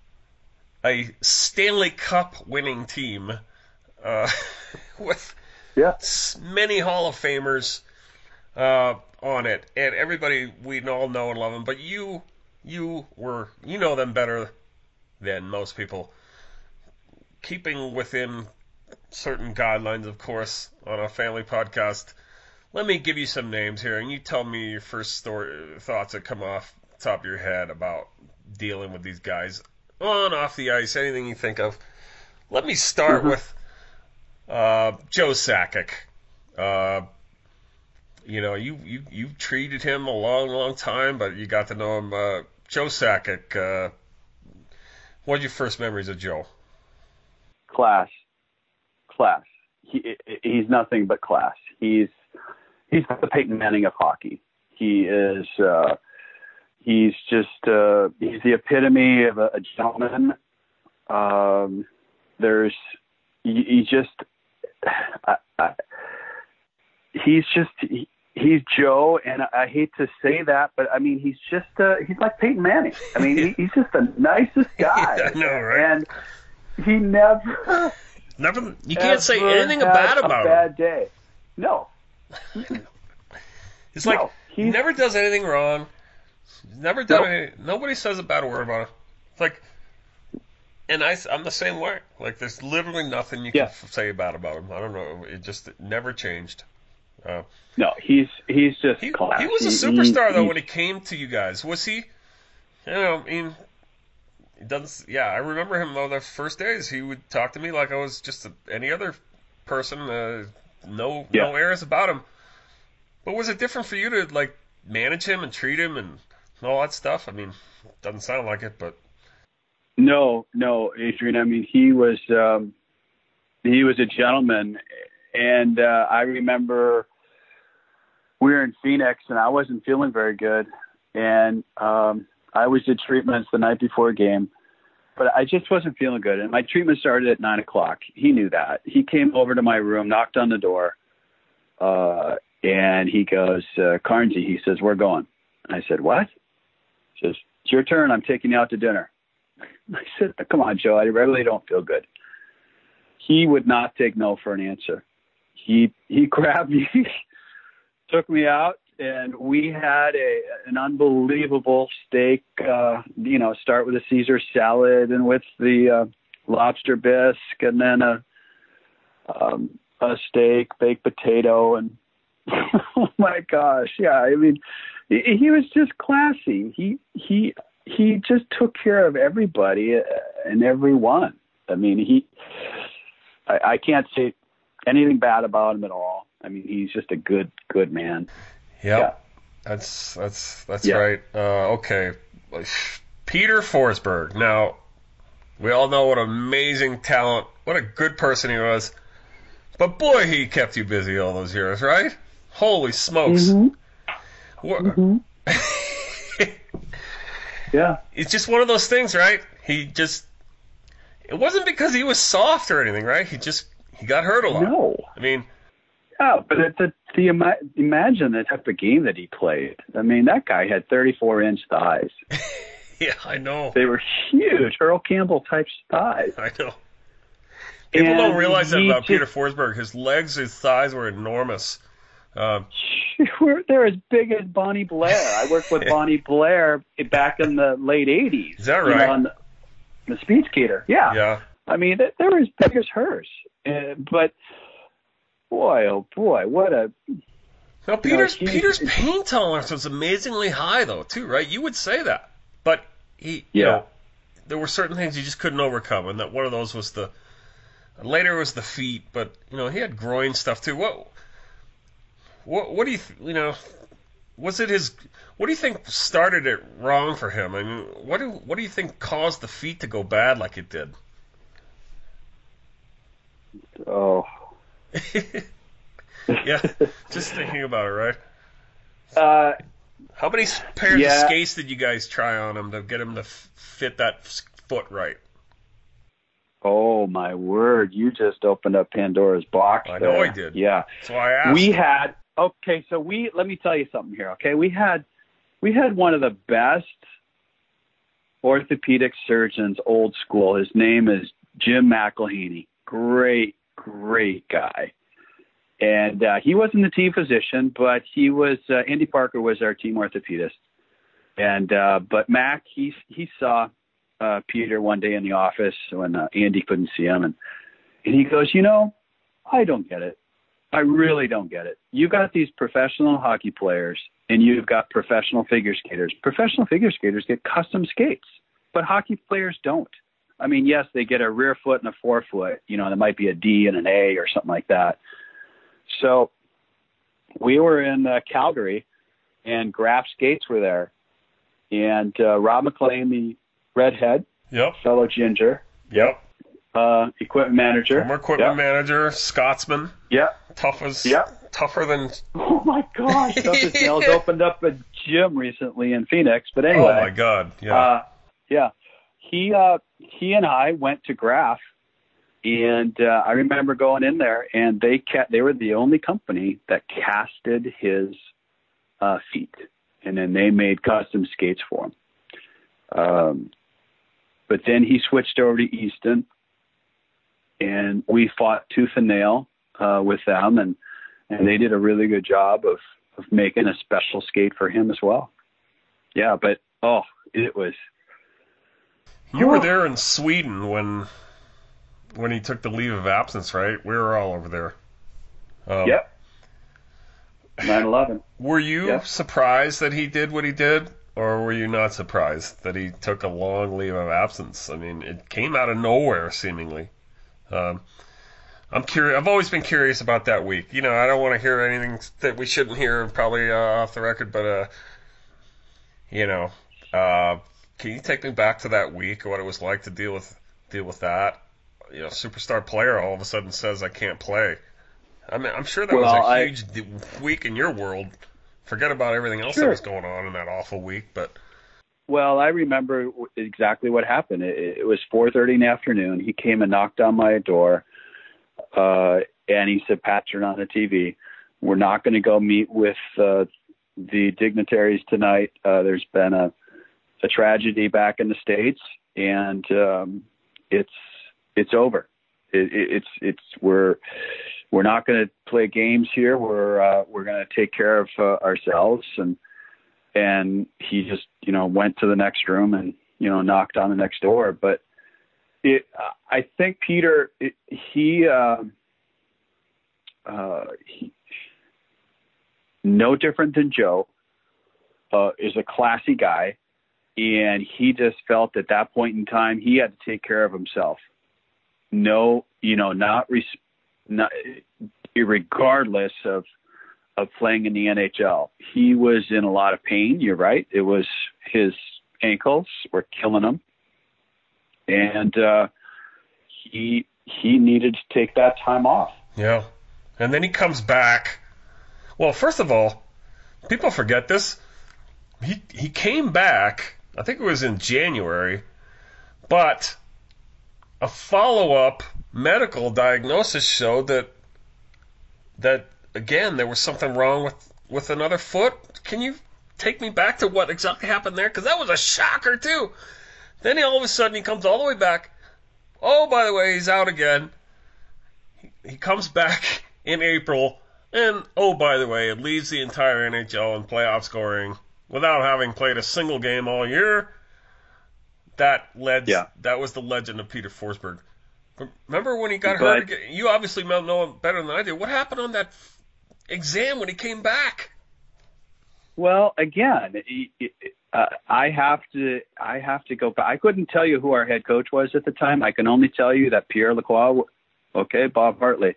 a Stanley Cup winning team uh, with yeah. many Hall of Famers uh, on it, and everybody we all know and love them. But you, you were, you know them better than most people. Keeping within certain guidelines, of course, on a family podcast, let me give you some names here, and you tell me your first story, thoughts that come off the top of your head about dealing with these guys on, off the ice, anything you think of. Let me start Mm-hmm. with uh, Joe Sakic. Uh, you know, you, you, you treated him a long, long time, but you got to know him. Uh, Joe Sakic, uh, what are your first memories of Joe? Class. Class. He, he's nothing but class. He's he's the Peyton Manning of hockey. He is uh, he's just uh, he's the epitome of a, a gentleman. Um, there's he, he just I, I, he's just he, he's Joe, and I, I hate to say that, but I mean he's just uh, he's like Peyton Manning. I mean he, he's just the nicest guy. I know, right? And he never. Never, you can't say ever anything had bad a about him. bad day. No. It's like No, he he's- never does anything wrong. He's never done Nope. any. Nobody says a bad word about him. It's like, and I, I'm the same way. Like, there's literally nothing you Yeah. can f- say bad about him. I don't know. It just it never changed. Uh, No, he's he's just he, class. he was a He- superstar he- though he- when he came to you guys. Was he? You know, I mean, he doesn't. Yeah, I remember him though. The first days, he would talk to me like I was just a, any other person. Uh, no, Yeah. no airs about him. But was it different for you to like manage him and treat him and all that stuff? I mean, doesn't sound like it, but No, no, Adrian. I mean, he was um, he was a gentleman, and uh, I remember we were in Phoenix, and I wasn't feeling very good, and um, I always did treatments the night before a game, but I just wasn't feeling good, and my treatment started at nine o'clock. He knew that. He came over to my room, knocked on the door, uh, and he goes, uh, "Carnsey," he says, "We're going." I said, "What?" He says, "It's your turn. I'm taking you out to dinner." I said, "Come on, Joe. I really don't feel good." He would not take no for an answer. He he grabbed me, took me out, and we had a an unbelievable steak. Uh, you know, start with a Caesar salad and with the uh, lobster bisque, and then a um, a steak, baked potato, and oh my gosh, yeah. I mean, he, he was just classy. He he. He just took care of everybody and everyone. I mean, he, I, I can't say anything bad about him at all. I mean, he's just a good, good man. Yep. Yeah. That's that's that's Yeah. right. Uh, okay, Peter Forsberg. Now, we all know what amazing talent, what a good person he was. But boy, he kept you busy all those years, right? Holy smokes! Mhm. What- Mhm. Yeah. It's just one of those things, right? He just. It wasn't because he was soft or anything, right? He just he got hurt a lot. No. I mean, Yeah, but it's a, the ima- imagine the type of game that he played. I mean, that guy had thirty-four inch thighs. yeah, I know. They were huge, Earl Campbell type thighs. I know. People And don't realize that he about Peter just- Forsberg. His legs, his thighs were enormous. Um, We're- They're as big as Bonnie Blair. I worked with Bonnie Blair back in the late eighties. Is that you know, right? on the, the speed skater. Yeah. yeah. I mean, they, they were as big as hers. Uh, but boy, oh boy, what a Now, Peter's he- Peter's pain tolerance was amazingly high, though, too, right? You would say that, but he, you Yeah. know, there were certain things he just couldn't overcome, and that one of those was the. Later was the feet, but you know he had groin stuff too. What, what, what do you, th- you know, was it his? What do you think started it wrong for him? I mean, what do what do you think caused the feet to go bad like it did? oh. Yeah, just thinking about it, right? Uh, How many pairs Yeah. of skates did you guys try on him to get him to f- fit that f- foot right? oh my word! You just opened up Pandora's box. I know there. I did. Yeah. That's why I asked. We had okay, so we let me tell you something here. Okay, we had we had one of the best orthopedic surgeons, old school. His name is Jim McElhaney. Great, great guy. And uh, he wasn't the team physician, but he was. Uh, Andy Parker was our team orthopedist. And uh, but Mac, he he saw uh, Peter one day in the office when uh, Andy couldn't see him, and and he goes, you know, I don't get it. I really don't get it. You got these professional hockey players, and you've got professional figure skaters. Professional figure skaters get custom skates, but hockey players don't. I mean, yes, they get a rear foot and a forefoot. You know, there might be a D and an A or something like that. So we were in uh, Calgary, and Graf Skates were there. And uh, Rob McLean, the redhead, yep. fellow ginger, yep, uh, equipment manager, former equipment yep. manager, Scotsman, yep, tough as, yep. tougher than. Oh my gosh, tough as nails. Opened up a gym recently in Phoenix, but anyway. Oh my God, yeah, uh, yeah. He uh, he and I went to Graf, and uh, I remember going in there, and they ca- they were the only company that casted his uh, feet. And then they made custom skates for him. Um, but then he switched over to Easton, and we fought tooth and nail uh, with them, and, and they did a really good job of, of making a special skate for him as well. Yeah, but, oh, it was... You were there in Sweden when when he took the leave of absence, right? We were all over there. Um, yep. nine eleven. Were you yep. surprised that he did what he did, or were you not surprised that he took a long leave of absence? I mean, it came out of nowhere, seemingly. Um, I'm curious. I've always been curious about that week. You know, I don't want to hear anything that we shouldn't hear, probably uh, off the record, but uh, you know, uh, can you take me back to that week, what it was like to deal with deal with that? You know, superstar player all of a sudden says I can't play. I mean, I'm sure that well, was a I, huge week in your world. Forget about everything else sure. that was going on in that awful week, but. Well, I remember exactly what happened. It, it was four thirty in the afternoon. He came and knocked on my door, uh, and he said, "Pat, turn on the T V. We're not going to go meet with uh, the dignitaries tonight. Uh, there's been a, a tragedy back in the States, and um, it's it's over. It, it, it's it's we're." We're not going to play games here. We're uh, we're going to take care of uh, ourselves." And and he just you know went to the next room and you know knocked on the next door. But it, I think Peter, it, he, uh, uh, he, no different than Joe, uh, is a classy guy, and he just felt at that point in time he had to take care of himself. No, you know, not. Res- Not, regardless of of playing in the N H L, he was in a lot of pain. You're right; it was his ankles were killing him, and uh, he he needed to take that time off. Yeah, and then he comes back. Well, first of all, people forget this. He he came back. I think it was in January, but a follow-up medical diagnosis showed that that again there was something wrong with, with another foot. Can you take me back to what exactly happened there? Because that was a shocker too. Then he, all of a sudden he comes all the way back. Oh, by the way, he's out again. He, he comes back in April, and oh, by the way, it leaves the entire N H L in playoff scoring without having played a single game all year. That led. Yeah. That was the legend of Peter Forsberg. Remember when he got But, hurt again? You obviously know better than I do. What happened on that exam when he came back? Well, again, uh, I have to I have to go back. I couldn't tell you who our head coach was at the time. I can only tell you that Pierre Lacroix, okay, Bob Hartley.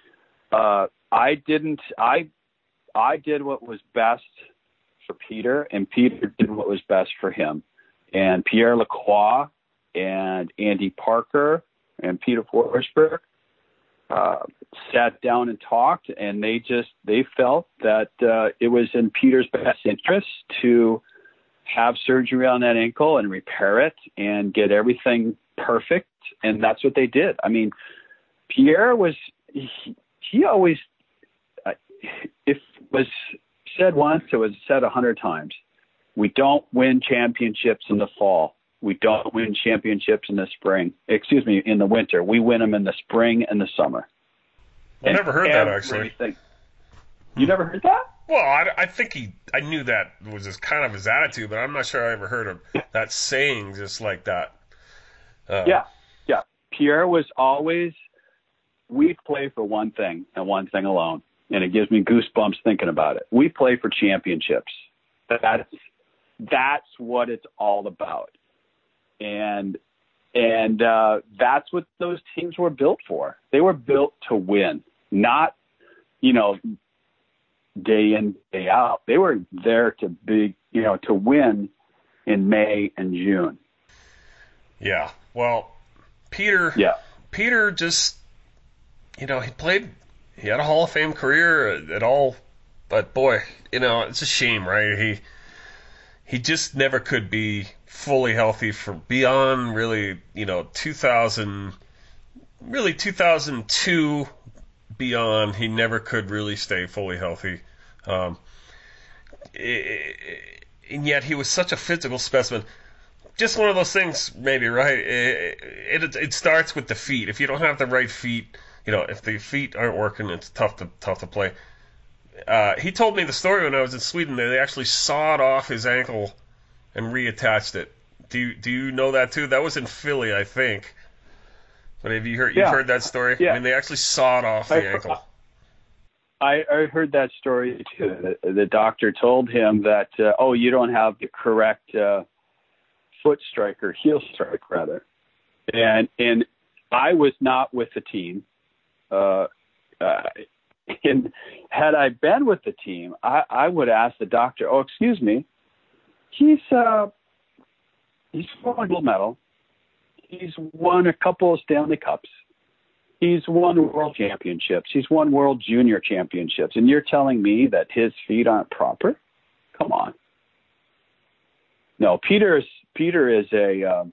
Uh, I didn't. I I did what was best for Peter, and Peter did what was best for him. And Pierre Lacroix and Andy Parker and Peter Forsberg uh, sat down and talked, and they just they felt that uh, it was in Peter's best interest to have surgery on that ankle and repair it and get everything perfect, and that's what they did. I mean, Pierre was he, he always uh, if it was said once, it was said a hundred times. We don't win championships in the fall. We don't win championships in the spring. Excuse me, in the winter. We win them in the spring and the summer. I never heard that, actually. You never heard that? Well, I, I think he, I knew that was his kind of his attitude, but I'm not sure I ever heard of that saying just like that. Uh, yeah, yeah. Pierre was always, we play for one thing and one thing alone, and it gives me goosebumps thinking about it. We play for championships. That's that's what it's all about, and and uh, that's what those teams were built for. They were built to win, not you know day in day out. They were there to be you know to win in May and June. Yeah. Well, Peter. Yeah. Peter just you know he played. He had a Hall of Fame career at all, but boy, you know it's a shame, right? He. He just never could be fully healthy for beyond really, you know, two thousand, really two thousand two beyond. He never could really stay fully healthy. Um, and yet he was such a physical specimen. Just one of those things, maybe, right? It, it, it starts with the feet. If you don't have the right feet, you know, if the feet aren't working, it's tough to tough to play. Uh, he told me the story when I was in Sweden that they actually sawed off his ankle and reattached it. Do you, do you know that too? That was in Philly, I think. But have you heard you've yeah. heard that story? Yeah. I mean, they actually sawed off the I, ankle. I, I heard that story too. The, the doctor told him that, uh, oh, you don't have the correct uh, foot strike or heel strike, rather. And and I was not with the team. Uh, uh, And had I been with the team, I, I would ask the doctor, oh, excuse me, he's uh, he's won a gold medal. He's won a couple of Stanley Cups. He's won world championships. He's won world junior championships. And you're telling me that his feet aren't proper? Come on. No, Peter is, Peter is a um,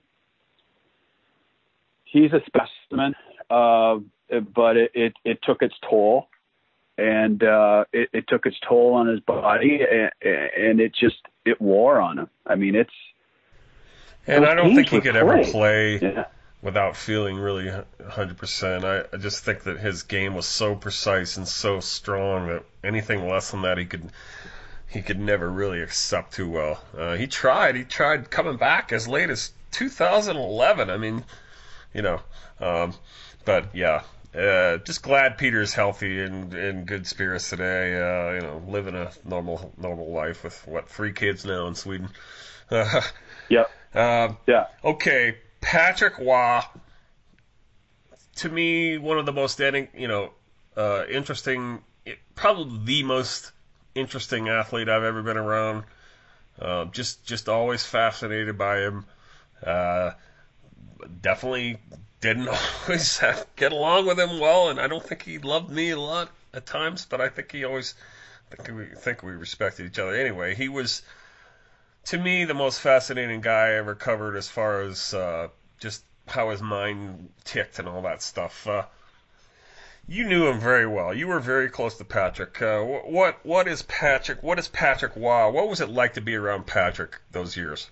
he's a specimen, uh, but it, it, it took its toll. And uh, it, it took its toll on his body, and, and it just it wore on him. I mean, it's and I don't think he could play. ever play yeah. without feeling really one hundred percent. I, I just think that his game was so precise and so strong that anything less than that he could he could never really accept too well. Uh, he tried. He tried coming back as late as two thousand eleven. I mean, you know, um, but yeah. Uh, just glad Peter's healthy and in good spirits today. Uh, you know, living a normal normal life with what three kids now in Sweden. Uh, yeah. Uh, yeah. Okay, Patrick Waugh. To me, one of the most you know uh, interesting, probably the most interesting athlete I've ever been around. Uh, just just always fascinated by him. Uh, definitely. Didn't always have, get along with him well, and I don't think he loved me a lot at times, but I think he always I think we think we respected each other. Anyway, he was, to me, the most fascinating guy I ever covered as far as uh, just how his mind ticked and all that stuff. Uh, you knew him very well. You were very close to Patrick. Uh, what what is Patrick? What is Patrick Waugh? What was it like to be around Patrick those years?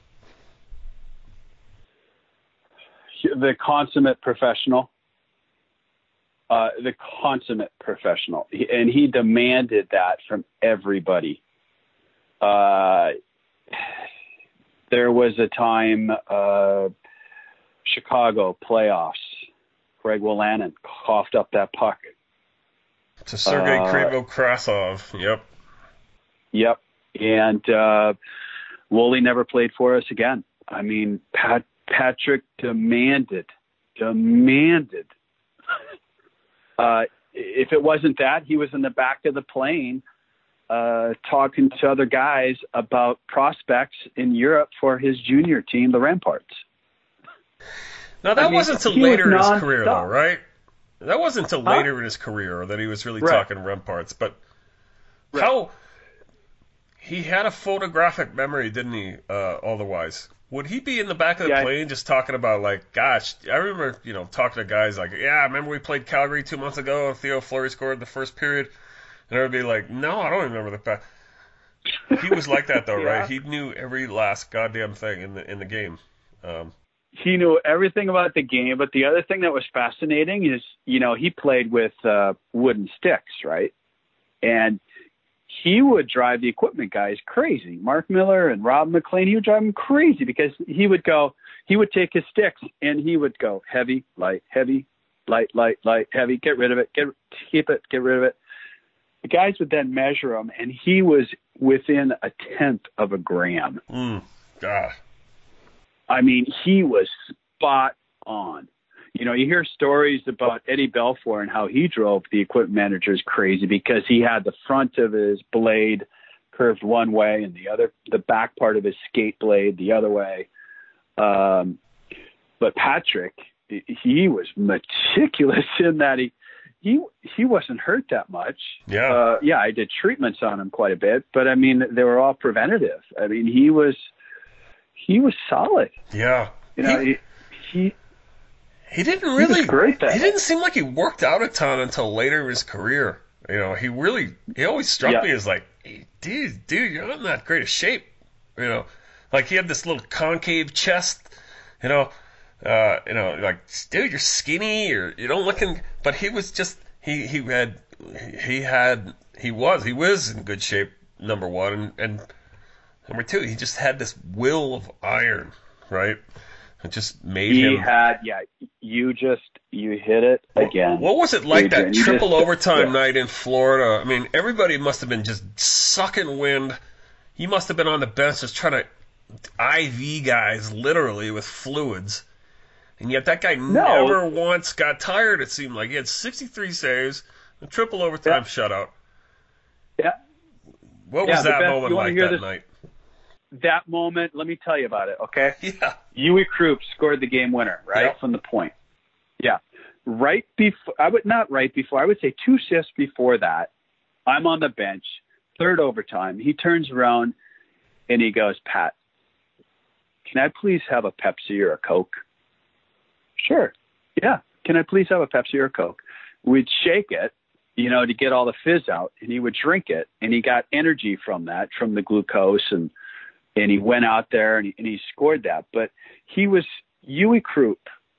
The consummate professional, uh, the consummate professional, he, and he demanded that from everybody. Uh, there was a time, uh, Chicago playoffs, Greg Wolanin coughed up that puck. To Sergei uh, Krivo-Krasov, yep. Yep, and uh, Wooly never played for us again. I mean, Pat. Patrick demanded, demanded. Uh, if it wasn't that, he was in the back of the plane uh, talking to other guys about prospects in Europe for his junior team, the Ramparts. Now, that I mean, wasn't until later in his career, though, right? That wasn't until huh? later in his career that he was really right. talking Ramparts. But right. how he had a photographic memory, didn't he, uh, otherwise? Would he be in the back of the yeah, plane just talking about, like, gosh, I remember, you know, talking to guys like, yeah, I remember we played Calgary two months ago and Theo Fleury scored the first period. And I would be like, no, I don't remember the back. He was like that, though, yeah. right? He knew every last goddamn thing in the in the game. Um, he knew everything about the game, but the other thing that was fascinating is, you know, he played with uh, wooden sticks, right? And he would drive the equipment guys crazy. Mark Miller and Rob McLean, he would drive them crazy because he would go, he would take his sticks and he would go heavy, light, heavy, light, light, light, heavy, get rid of it, get keep it, get rid of it. The guys would then measure him, and he was within a tenth of a gram. Mm, God. I mean, he was spot on. You know, you hear stories about Eddie Belfour and how he drove the equipment managers crazy because he had the front of his blade curved one way and the other, the back part of his skate blade the other way. Um, but Patrick, he was meticulous in that he, he, he wasn't hurt that much. Yeah. Uh, yeah, I did treatments on him quite a bit, but I mean, they were all preventative. I mean, he was, he was solid. Yeah. You know, he, he, he He didn't really. He, great he didn't seem like he worked out a ton until later in his career. You know, he really. He always struck yeah. me as like, hey, dude, dude, you're not in that great a shape. You know, like he had this little concave chest. You know, uh, you know, like, dude, you're skinny, or you don't looking. But he was just. He he had. He had. He was. He was in good shape. Number one, and, and number two, he just had this will of iron, right? It just made he him. He had, yeah. You just you hit it again. What was it like Adrian, that triple just, overtime yeah. night in Florida? I mean, everybody must have been just sucking wind. You must have been on the bench just trying to I V guys literally with fluids, and yet that guy no. never once got tired. It seemed like he had sixty-three saves, a triple overtime yeah. shutout. Yeah. What yeah, was that best, moment like that this? night? That moment, let me tell you about it, okay? Yeah. Huey Krupp scored the game winner, right, yep. from the point. Yeah. Right before, I would not right before, I would say two shifts before that, I'm on the bench, third overtime. He turns around and he goes, Pat, can I please have a Pepsi or a Coke? Sure. Yeah. Can I please have a Pepsi or a Coke? We'd shake it, you know, to get all the fizz out, and he would drink it, and he got energy from that, from the glucose, and and he went out there and he, and he scored that. But he was Huey Krupp.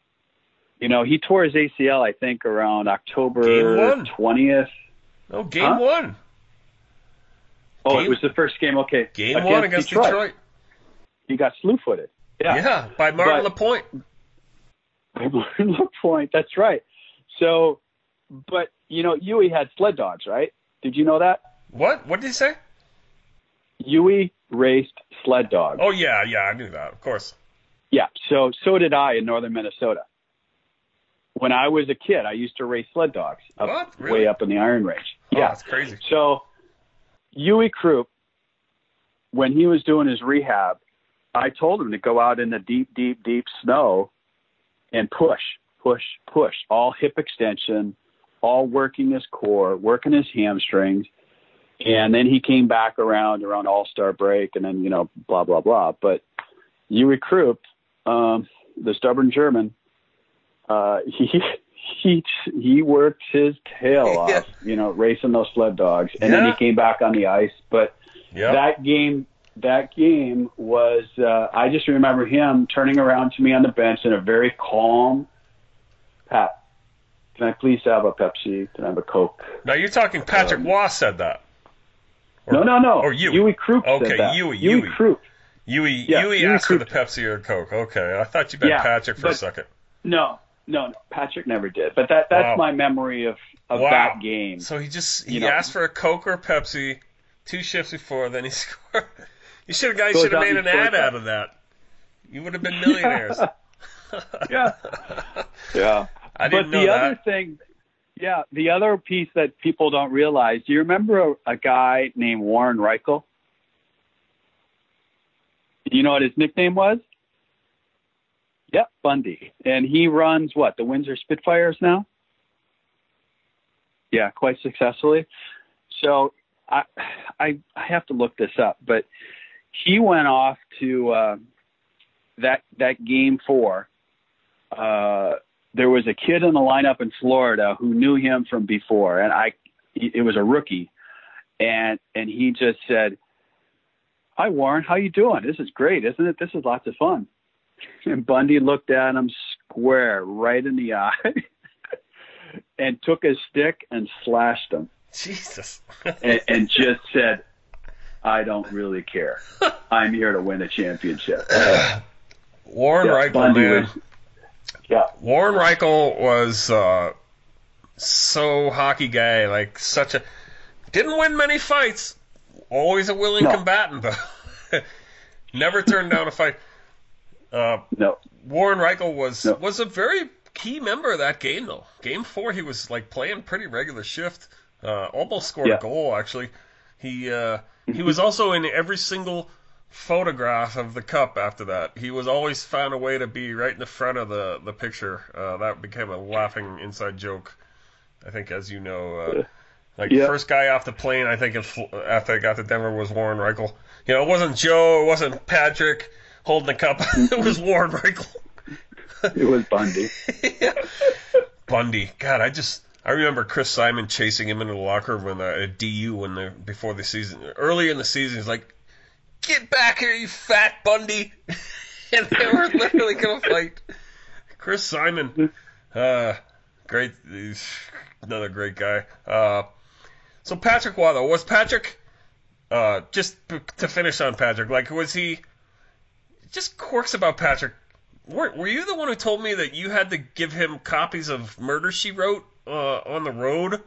You know, he tore his A C L, I think, around October twentieth. Oh, game huh? one. Oh, game, it was the first game. Okay. Game against one against Detroit. Detroit. He got slew-footed. Yeah. Yeah, by Martin but, LaPointe. By Martin LaPointe, that's right. So, but, you know, Huey had sled dogs, right? Did you know that? What? What did he say? Huey raced sled dogs. Oh, yeah, yeah, I knew that, of course. Yeah, so so did I in northern Minnesota. When I was a kid, I used to race sled dogs up, what? Really? way up in the Iron Range. Oh, yeah, that's crazy. So Huey Krupp, when he was doing his rehab, I told him to go out in the deep, deep, deep snow and push, push, push, all hip extension, all working his core, working his hamstrings. And then he came back around around All-Star break, and then, you know, blah, blah, blah. But Huey Krupp, um, the stubborn German, uh, he he he worked his tail off, yeah. you know, racing those sled dogs. And yeah. then he came back on the ice. But yep. that game that game was, uh, I just remember him turning around to me on the bench in a very calm, Pat, can I please have a Pepsi? Can I have a Coke? Now you're talking Patrick um, Waugh said that. Or, no, no, no. Or Huey. Huey Krupp okay, said that. Huey, Huey Huey. Krupp. Huey, yeah, Huey Huey asked Krupp. for the Pepsi or Coke. Okay, I thought you meant yeah, Patrick for but, a second. No, no, no. Patrick never did. But that that's wow. my memory of, of wow. that game. So he just he you know, asked for a Coke or a Pepsi two shifts before, then he scored. You should have guys should have made an ad that. out of that. You would have been millionaires. yeah, yeah. I didn't but know the that. other thing, yeah, the other piece that people don't realize. Do you remember a, a guy named Warren Reichel? You know what his nickname was? Yep, Bundy. And he runs what, the Windsor Spitfires now? Yeah, quite successfully. So I, I, I have to look this up, but he went off to uh, that that game four. Uh, there was a kid in the lineup in Florida who knew him from before, and I, it was a rookie, and and he just said, "Hi Warren, how you doing? This is great, isn't it? This is lots of fun." And Bundy looked at him square right in the eye and took his stick and slashed him. Jesus. and, and just said, "I don't really care. I'm here to win a championship." Warren Yeah, Reichel, Bundy man. was- Yeah. Warren Reichel was uh, so hockey guy, like such a didn't win many fights. Always a willing No. combatant, though. Never turned down a fight. Uh, No. Warren Reichel was No. was a very key member of that game, though. Game four, he was like playing pretty regular shift. Uh, almost scored Yeah. a goal, actually. He uh, he was also in every single photograph of the cup after that. He was always found a way to be right in the front of the the picture. Uh, that became a laughing inside joke, I think, as you know. Uh, like Yeah. first guy off the plane, I think, in, Fl- after I got to Denver was Warren Reichel. You know, it wasn't Joe, it wasn't Patrick holding the cup. It was Warren Reichel. It was Bundy. Yeah. Bundy. God, I just I remember Chris Simon chasing him into the locker room when, uh, at D U when they before the season. Early in the season, he's like, "Get back here, you fat Bundy!" And they were literally gonna fight. Chris Simon, uh, great, he's another great guy. Uh, so Patrick Waugh, though, was Patrick? Uh, just p- to finish on Patrick, like was he? Just quirks about Patrick. Were, were you the one who told me that you had to give him copies of Murder, She Wrote uh, on the road?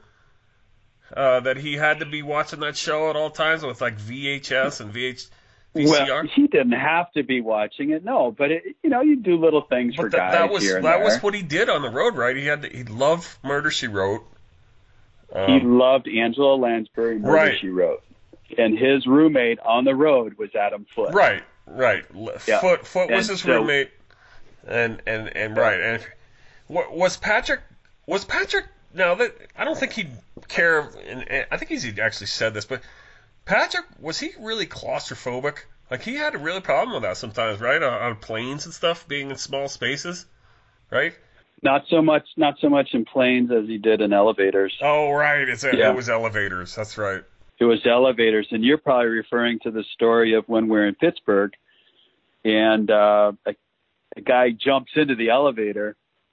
Uh, that he had to be watching that show at all times with like V H S and V H, V C R? Well, he didn't have to be watching it, no. But it, you know, you do little things But for that, guys that was here and that there. was what he did on the road, right? He had to, he loved Murder, She Wrote. Um, he loved Angela Lansbury, Murder, Right. She Wrote. And his roommate on the road was Adam Foote. Right, right. L- Yeah. Foot Foot was And his so- roommate, and and and right. And what was Patrick? Was Patrick? Now that I don't think he'd care. And, and I think he's he actually said this, but Patrick, was he really claustrophobic? Like he had a really problem with that sometimes, right? On, on planes and stuff, being in small spaces, right? Not so much, not so much in planes as he did in elevators. Oh, right. It's a, Yeah. it was elevators. That's right. It was elevators, and you're probably referring to the story of when we're in Pittsburgh, and uh, a, a guy jumps into the elevator,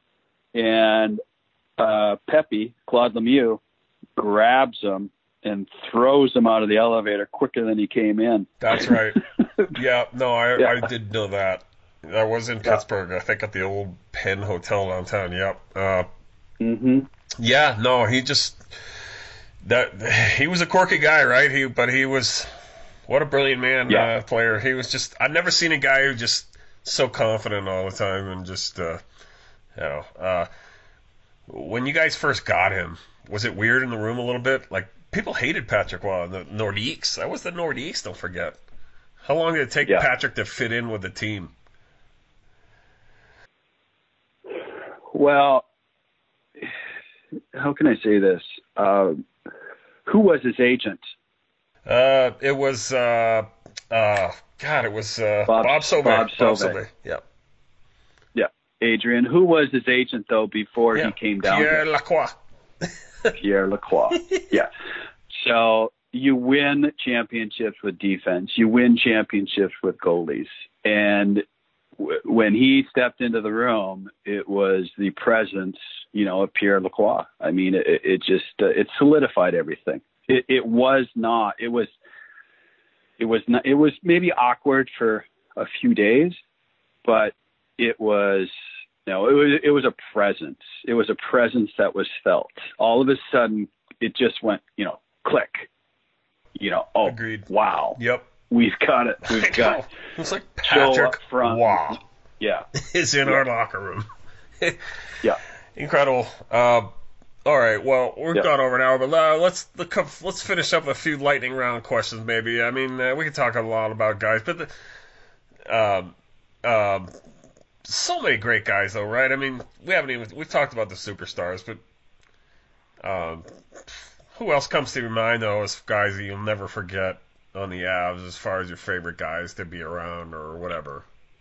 and uh, Pepe, Claude Lemieux, grabs him and throws him out of the elevator quicker than he came in. That's right. Yeah, no, I Yeah. I did know that. That was in Pittsburgh, I think, at the old Penn Hotel downtown. Yep. Uh, Mm-hmm. yeah, no, he just that he was a quirky guy, right? He, but he was what a brilliant man, Yeah. uh, player. He was just I've never seen a guy who just so confident all the time and just uh, you know. Uh, when you guys first got him, was it weird in the room a little bit? Like people hated Patrick Waugh, the Nordiques. That was the Nordiques. Don't forget. How long did it take Yeah. Patrick to fit in with the team? Well, how can I say this? Uh, who was his agent? Uh, it was uh, uh, God, it was uh, Bob- Bob Sauvé. Bob Sauvé. Sauvé. Yep. Yeah, Adrian. Who was his agent though before Yeah. he came down? Pierre here? Lacroix. Pierre Lacroix. Yeah. So you win championships with defense. You win championships with goalies. And w- when he stepped into the room, it was the presence, you know, of Pierre Lacroix. I mean, it, it just uh, it solidified everything. It, it was not. It was. It was not. It was maybe awkward for a few days, but it was. No, it was it was a presence. It was a presence that was felt. All of a sudden, it just went, you know, click. You know, oh, Agreed. wow. Yep. We've got it. I We've know. got It's like Joe Patrick up front. Waugh Yeah, is in our locker room. yeah. Incredible. Uh, all right. Well, we've Yeah. gone over an hour, but uh, let's let's finish up with a few lightning round questions. Maybe. I mean, uh, we could talk a lot about guys, but the, um, um, so many great guys, though, right? I mean, we haven't even we've talked about the superstars, but um, who else comes to your mind though as guys that you'll never forget on the Avs as far as your favorite guys to be around or whatever?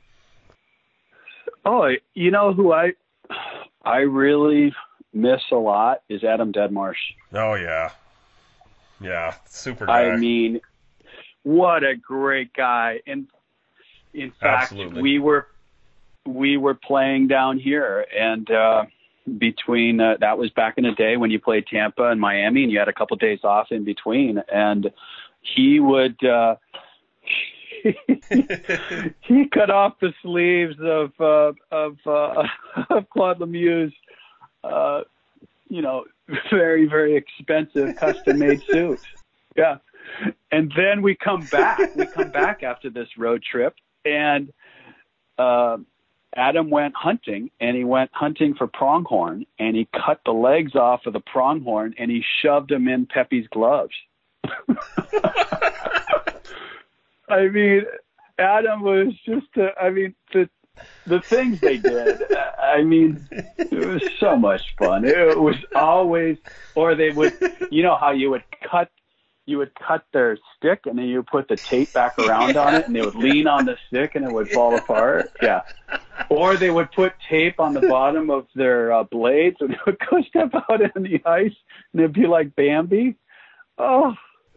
Oh, you know who I I really miss a lot is Adam Deadmarsh. Oh yeah, yeah, super guy. I mean, what a great guy. And in fact, Absolutely. we were we were playing down here, and uh, between uh, that was back in the day when you played Tampa and Miami, and you had a couple days off in between. And he would uh, he cut off the sleeves of uh, of uh, of Claude Lemieux's, uh, you know, very very expensive custom made suit. Yeah, and then we come back. We come back after this road trip, and uh, Adam went hunting, and he went hunting for pronghorn, and he cut the legs off of the pronghorn, and he shoved them in Pepe's gloves. I mean, Adam was just, uh, I mean, the the things they did, I mean, it was so much fun. It was always, or they would, you know how you would cut, you would cut their stick and then you would put the tape back around yeah. on it and they would lean on the stick and it would fall yeah. apart. Yeah. Or they would put tape on the bottom of their uh, blades and they would go step out in the ice and it'd be like Bambi. Oh.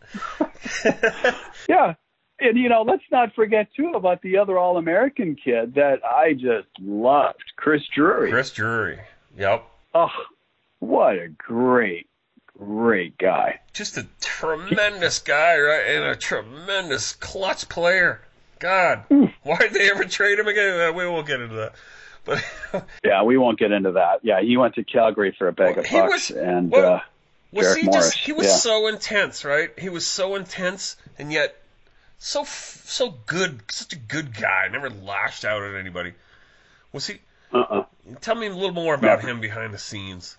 Yeah. And, you know, let's not forget, too, about the other All-American kid that I just loved, Chris Drury. Chris Drury. Yep. Oh, what a great, great guy. Just a tremendous guy, right? And a tremendous clutch player. God, why did they ever trade him again? We won't get into that. But yeah, we won't get into that. Yeah, he went to Calgary for a bag well, of bucks. Was, and well, uh, was Derek he Morris. Just, he was yeah. so intense, right? He was so intense, and yet so so good, such a good guy. Never lashed out at anybody. Was he? Uh-uh. Tell me a little more about Never. him behind the scenes.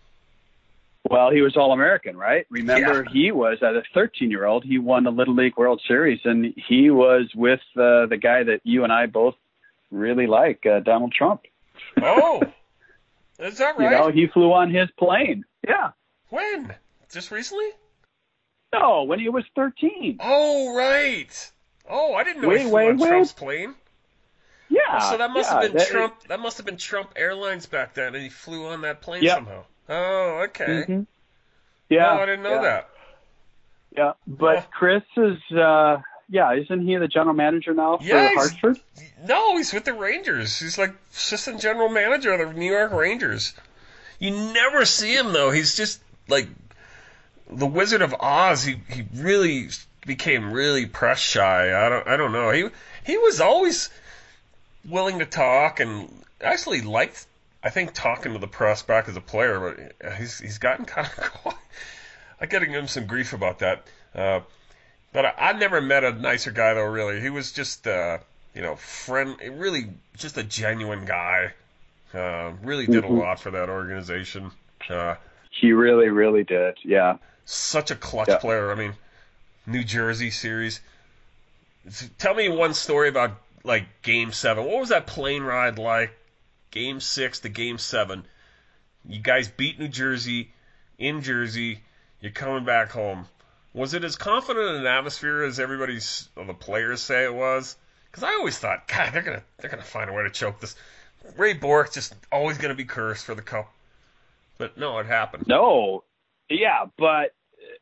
Well, he was All-American, right? Remember, Yeah. he was, as a thirteen-year-old, he won the Little League World Series, and he was with uh, the guy that you and I both really like, uh, Donald Trump. Oh, is that right? You know, he flew on his plane. Yeah. When? Just recently? No, when he was thirteen. Oh, right. Oh, I didn't know Wait, he flew wait, on wait. Trump's plane. Yeah. Oh, so that must yeah, have been that, Trump. That must have been Trump Airlines back then, and he flew on that plane Yep. somehow. Oh, okay. Mm-hmm. Yeah. Oh, I didn't know yeah. that. Yeah, but Oh. Chris is, uh, yeah, isn't he the general manager now for Yeah, he's- Hartford? No, he's with the Rangers. He's like assistant general manager of the New York Rangers. You never see him though. He's just like the Wizard of Oz. He he really became really press shy. I don't I don't know. He he was always willing to talk and actually liked, I think, talking to the press back as a player, but he's he's gotten kind of quiet. I'm getting him some grief about that. Uh, but I, I've never met a nicer guy, though, really. He was just, uh, you know, friend, really just a genuine guy. Uh, really did Mm-hmm. a lot for that organization. Uh, He really, really did, yeah. such a clutch Yeah. player. I mean, New Jersey series. Tell me one story about, like, Game seven. What was that plane ride like? Game six to Game seven. You guys beat New Jersey in Jersey. You're coming back home. Was it as confident an atmosphere as everybody's, or the players say it was? Because I always thought, God, they're gonna they're gonna find a way to choke this. Ray Bourque just always gonna be cursed for the cup. But no, it happened. No, yeah, but,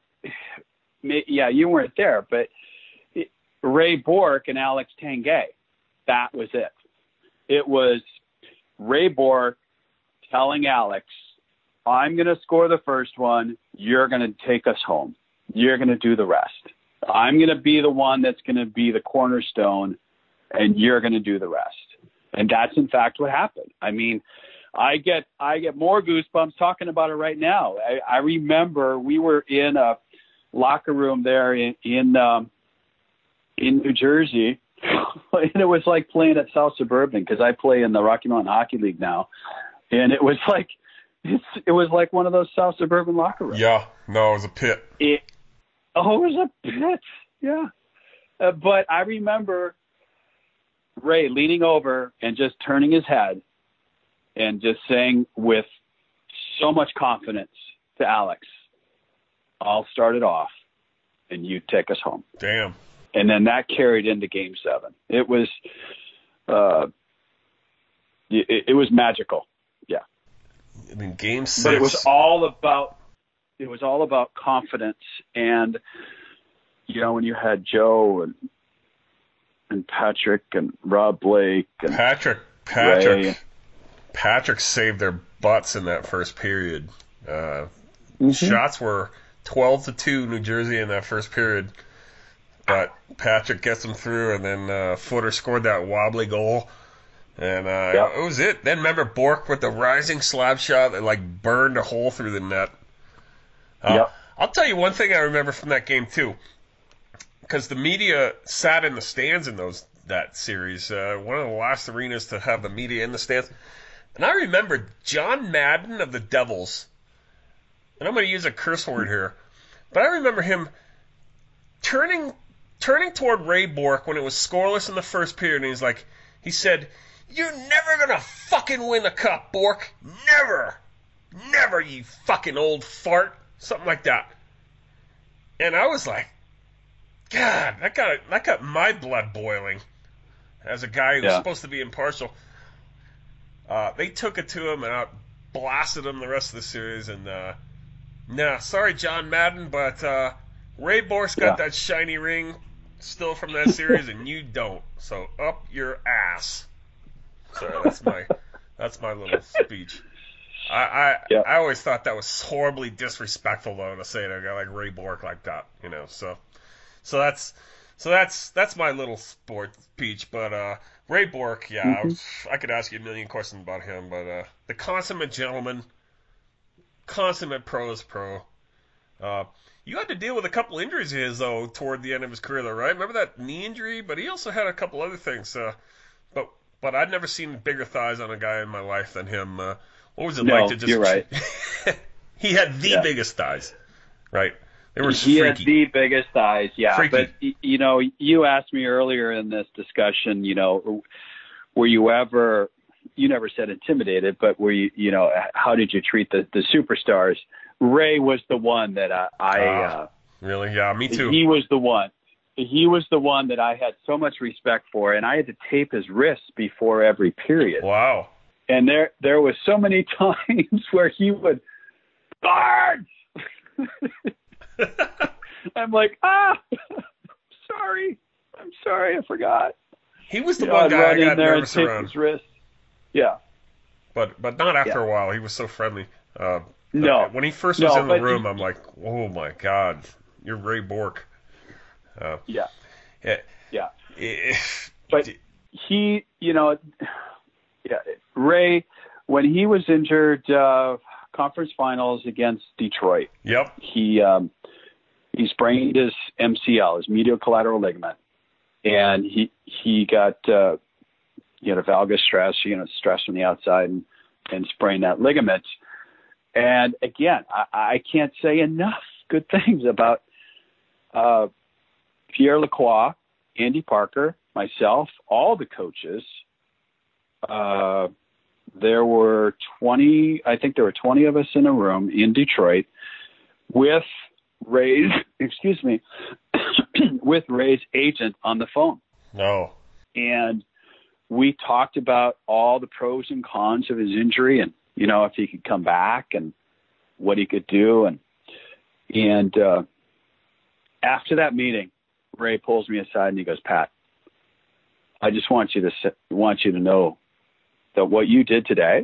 yeah, you weren't there, but Ray Bourque and Alex Tanguay, that was it. It was Ray Bourque telling Alex, I'm going to score the first one. You're going to take us home. You're going to do the rest. I'm going to be the one that's going to be the cornerstone, and you're going to do the rest. And that's, in fact, what happened. I mean, I get I get more goosebumps talking about it right now. I, I remember we were in a locker room there in in, um, in New Jersey, and it was like playing at South Suburban because I play in the Rocky Mountain Hockey League now, and it was like it's, it was like one of those South Suburban locker rooms. Yeah, no, it was a pit. It, oh, it was a pit, yeah. Uh, but I remember Ray leaning over and just turning his head and just saying with so much confidence to Alex, I'll start it off and you take us home. Damn. And then that carried into Game seven. It was, uh, it, it was magical. Yeah. I mean, Game six. But it was all about, it was all about confidence. And, you know, when you had Joe and, and Patrick and Rob Blake and Patrick, Patrick, Ray. Patrick saved their butts in that first period. Uh, Mm-hmm. Shots were twelve to two New Jersey in that first period. but Patrick gets him through, and then uh, Footer scored that wobbly goal. And uh, yep. it was it. Then remember Bork with the rising slap shot that like burned a hole through the net. Uh, yep. I'll tell you one thing I remember from that game too, because the media sat in the stands in those that series. Uh, one of the last arenas to have the media in the stands. And I remember John Madden of the Devils, and I'm going to use a curse word here, but I remember him turning turning toward Ray Bork when it was scoreless in the first period, and he's like, he said, "You're never going to fucking win the cup, Bork. Never. Never, you fucking old fart." Something like that. And I was like, God, that got that got my blood boiling as a guy who's yeah. supposed to be impartial. Uh, they took it to him, and I blasted him the rest of the series. And uh, nah, sorry, John Madden, but uh, Ray Bork's got yeah. that shiny ring still from that series, and you don't. So up your ass. So that's my that's my little speech. I I, yeah. I always thought that was horribly disrespectful though to say to a guy like Ray Bork like that, you know. So so that's so that's that's my little sport speech. But uh, Ray Bork, yeah, mm-hmm. I, was, I could ask you a million questions about him, but uh, the consummate gentleman, consummate pros pro. Uh, you had to deal with a couple injuries of his though toward the end of his career, though, right? Remember that knee injury? But he also had a couple other things. Uh, but but I'd never seen bigger thighs on a guy in my life than him. Uh, What was it no, like to just... you're right. He had the yeah. biggest thighs, right? They were he freaky. had the biggest thighs, yeah. Freaky. But, you know, you asked me earlier in this discussion, you know, were you ever, you never said intimidated, but were you, you know, how did you treat the, the superstars? Ray was the one that I... I uh, uh, really? Yeah, me too. He was the one. He was the one that I had so much respect for, and I had to tape his wrists before every period. Wow. And there, there was so many times where he would, guards! I'm like, ah, sorry. I'm sorry, I forgot. He was the you one know, guy I'd I got run in there nervous and tape around. his wrist. Yeah. But but not after yeah. a while. He was so friendly. Uh, no. When he first was no, in the room, he, I'm like, oh my God, you're Ray Bork. Uh, yeah. Yeah. Yeah. It, but he, you know, yeah, Ray, when he was injured, uh, conference finals against Detroit. Yep. He um, he sprained his M C L, his medial collateral ligament, and he he got uh, he had a valgus stress, you know, stress from the outside, and, and sprained that ligament. And again, I, I can't say enough good things about uh, Pierre Lacroix, Andy Parker, myself, all the coaches. Uh, there were twenty, I think there were twenty of us in a room in Detroit with Ray's, excuse me, with Ray's agent on the phone. No. And we talked about all the pros and cons of his injury and, you know, if he could come back and what he could do. And, and, uh, after that meeting, Ray pulls me aside and he goes, Pat, I just want you to want you to know that what you did today,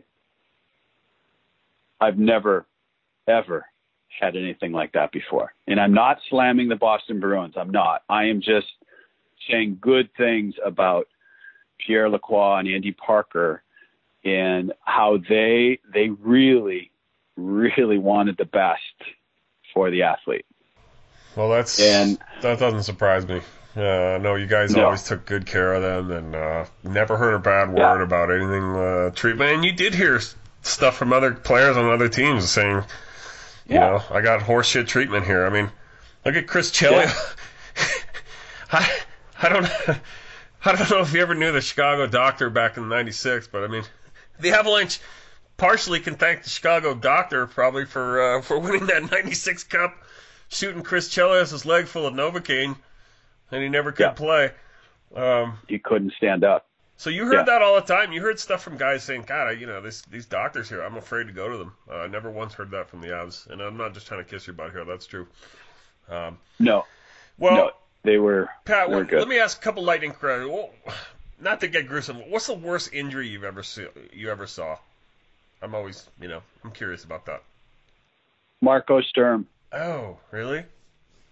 I've never, ever had anything like that before. And I'm not slamming the Boston Bruins. I'm not. I am just saying good things about Pierre Lacroix and Andy Parker and how they they really, really wanted the best for the athlete. Well, that's and, that doesn't surprise me. Uh, no, you guys no. always took good care of them and uh, never heard a bad word yeah. about anything uh, treatment. And you did hear stuff from other players on other teams saying, you yeah. know, I got horseshit treatment here. I mean, look at Chris Chelios. Yeah. I I don't I don't know if you ever knew the Chicago doctor back in ninety-six, but I mean, the Avalanche partially can thank the Chicago doctor probably for uh, for winning that ninety-six Cup, shooting Chris Chelios' leg full of Novocaine. And he never could yeah. play. Um, he couldn't stand up. So you heard yeah. that all the time. You heard stuff from guys saying, God, I, you know, this, these doctors here, I'm afraid to go to them. Uh, I never once heard that from the Avs. And I'm not just trying to kiss your butt here. That's true. Um, no. Well, no, they were, Pat, they were well, good. Let me ask a couple lightning questions. Well, not to get gruesome. What's the worst injury you've ever see, you ever saw? I'm always, you know, I'm curious about that. Marco Sturm. Oh, really?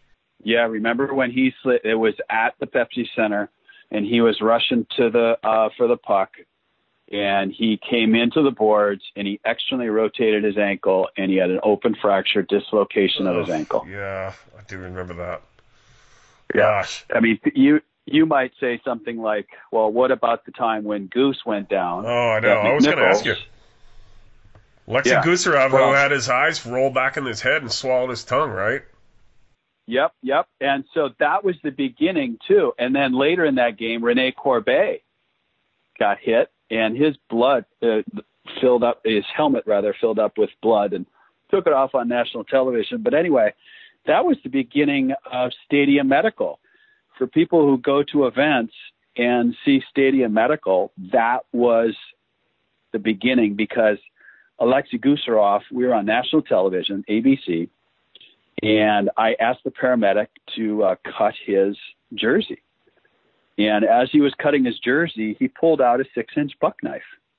Yeah, remember when he slid? It was at the Pepsi Center, and he was rushing to the uh, for the puck, and he came into the boards, and he externally rotated his ankle, and he had an open fracture dislocation of his ankle. Yeah, I do remember that. Yeah. Gosh. I mean, you you might say something like, well, what about the time when Goose went down? Oh, I know. I was going to ask you. Alexei Yeah. Gusarov, Well- who had his eyes roll back in his head and swallowed his tongue, right? Yep, yep. And so that was the beginning, too. And then later in that game, Rene Corbet got hit, and his blood uh, filled up, his helmet, rather, filled up with blood and took it off on national television. But anyway, that was the beginning of Stadium Medical. For people who go to events and see Stadium Medical, that was the beginning because Alexei Gusarov, we were on national television, A B C, and I asked the paramedic to uh, cut his jersey. And as he was cutting his jersey, he pulled out a six-inch buck knife.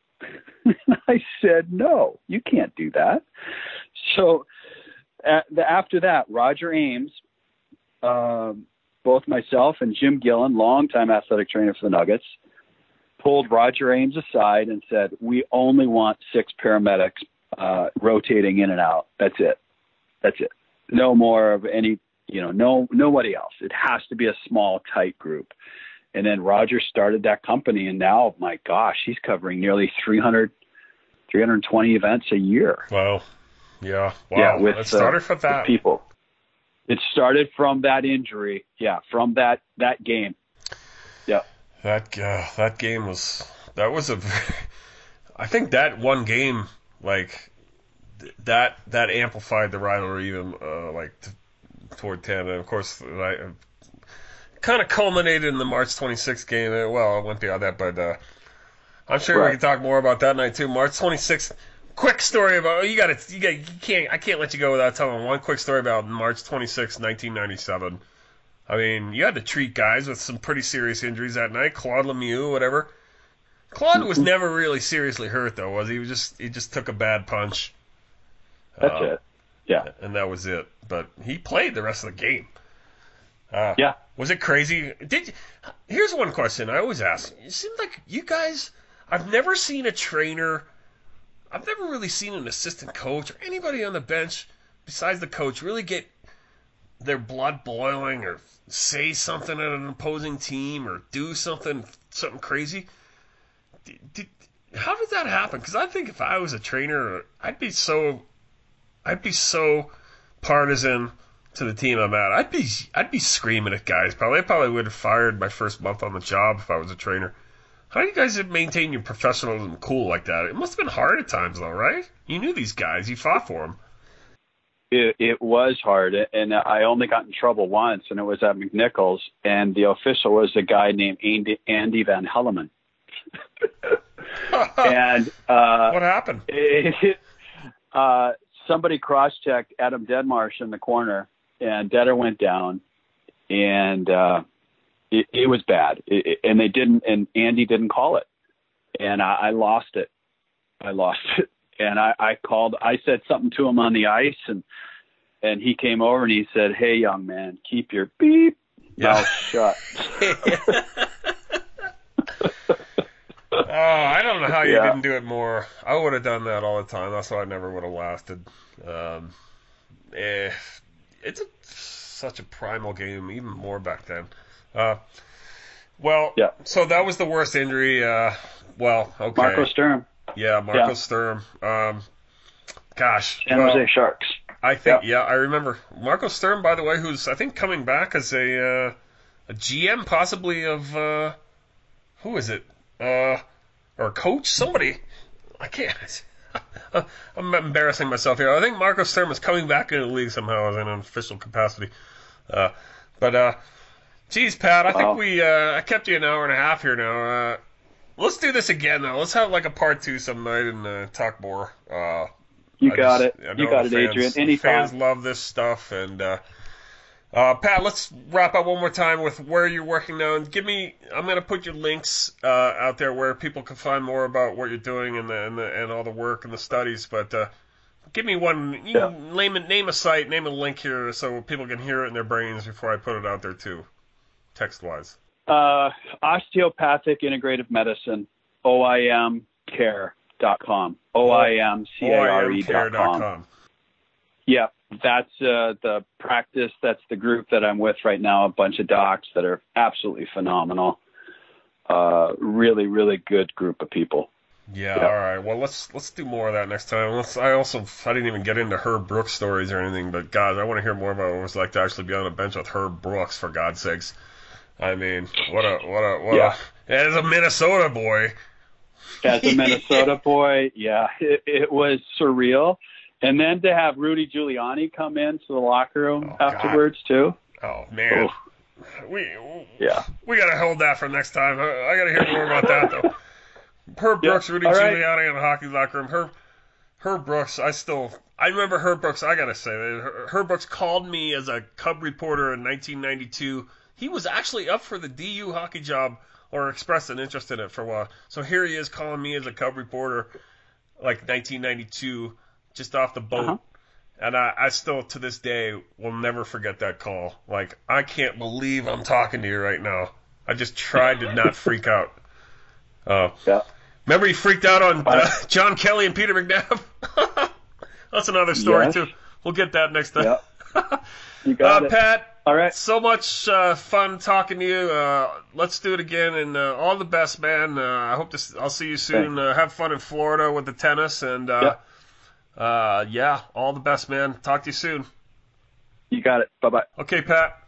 I said, no, you can't do that. So uh, the, after that, Roger Ames, uh, both myself and Jim Gillen, longtime athletic trainer for the Nuggets, pulled Roger Ames aside and said, we only want six paramedics uh, rotating in and out. That's it. That's it. No more of any, you know, no, nobody else. It has to be a small, tight group. And then Roger started that company, and now, my gosh, he's covering nearly three hundred, three hundred twenty events a year. Wow. Yeah. Wow. Yeah, with, it started uh, from that. with people. It started from that injury. Yeah, from that, that game. Yeah. That uh, that game was that was a. I think that one game like th- that that amplified the rivalry even uh, like t- toward Canada. Of course, I kind of culminated in the March twenty-sixth game. Well, it went beyond that, but uh, I'm sure Right. we can talk more about that night too. March twenty-sixth. Quick story about you got to you got you can't I can't let you go without telling one quick story about March twenty-sixth, nineteen ninety-seven. I mean, you had to treat guys with some pretty serious injuries that night. Claude Lemieux, whatever. Claude was never really seriously hurt, though, was he? He was just he just took a bad punch. That's Uh, it. Yeah. And that was it. But he played the rest of the game. Uh, Yeah. Was it crazy? Did you, here's one question I always ask. It seems like you guys. I've never seen a trainer. I've never really seen an assistant coach or anybody on the bench besides the coach really get their blood boiling or say something at an opposing team or do something something crazy. Did, did, how did that happen? Because I think if I was a trainer, I'd be so I'd be so partisan to the team I'm at. I'd be I'd be screaming at guys. Probably I probably would have fired my first month on the job if I was a trainer. How do you guys maintain your professionalism cool like that? It must have been hard at times, though, right? You knew these guys. You fought for them. It, it was hard, and I only got in trouble once, and it was at McNichols, and the official was a guy named Andy, Andy Van Helleman. and uh, what happened? It, uh, somebody cross-checked Adam Deadmarsh in the corner, and Deader went down, and uh, it, it was bad. It, it, and they didn't, and Andy didn't call it, and I, I lost it. I lost it. And I, I called, I said something to him on the ice, and and he came over and he said, "Hey, young man, keep your beep mouth shut." Oh, I don't know how you Yeah. didn't do it more. I would have done that all the time. That's why I never would have lasted. Um, eh, it's a, such a primal game, even more back then. Uh, well, Yeah. so that was the worst injury. Uh, well, okay. Marco Sturm, Yeah, Marco Yeah. Sturm. Um, gosh. San well, Jose Sharks. I think, Yeah. yeah, I remember. Marco Sturm, by the way, who's, I think, coming back as a uh, a G M, possibly, of, uh, who is it? Uh, or a coach? Somebody. I can't. I'm embarrassing myself here. I think Marco Sturm is coming back into the league somehow as in an official capacity. Uh, but, uh, geez, Pat, I Wow. think we, uh, I kept you an hour and a half here now. Uh, let's do this again, though. Let's have, like, a part two some night and uh, talk more. Uh, You I got just- it. I You know got the it, fans- Adrian. the Anytime. Fans love this stuff. And, uh, uh, Pat, let's wrap up one more time with where you're working now. And give me, I'm going to put your links uh, out there where people can find more about what you're doing and the, and, the, and all the work and the studies. But uh, Give me one. You Yeah. name, a, name a site, name a link here so people can hear it in their brains before I put it out there, too, text-wise. Uh, osteopathic integrative medicine, O I M care dot com. O I M C A R E dot com. Yeah, that's uh, the practice. That's the group that I'm with right now, a bunch of docs that are absolutely phenomenal. Uh, really, really good group of people. Yeah, Yeah. all right. Well, let's let's do more of that next time. Let's, I also I didn't even get into Herb Brooks stories or anything, but guys, I want to hear more about what it was like to actually be on a bench with Herb Brooks, for God's sakes. I mean, what a what a what Yeah. a as a Minnesota boy. As a Minnesota boy, yeah, it, it was surreal. And then to have Rudy Giuliani come into the locker room Oh, afterwards too. Oh man, Oof. we Yeah. we gotta hold that for next time. I, I gotta hear more about that though. Herb Yeah, Brooks, Rudy all right. Giuliani in the hockey locker room. Herb Herb Brooks, I still I remember Herb Brooks. I gotta say, Herb Brooks called me as a Cub reporter in nineteen ninety-two. He was actually up for the D U hockey job, or expressed an interest in it for a while. So here he is calling me as a Cub reporter, like nineteen ninety-two, just off the boat. Uh-huh. And I, I still, to this day, will never forget that call. Like, I can't believe I'm talking to you right now. I just tried to not freak out. Uh, Yeah. remember he freaked out on uh, John Kelly and Peter McNabb? That's another story, Yes. too. We'll get that next time. Yeah. You got uh, it. Pat, All right. so much uh, fun talking to you. Uh, let's do it again, and uh, all the best, man. Uh, I hope to. s- I'll see you soon. Uh, have fun in Florida with the tennis, and uh, uh, yeah, all the best, man. Talk to you soon. You got it. Bye bye. Okay, Pat.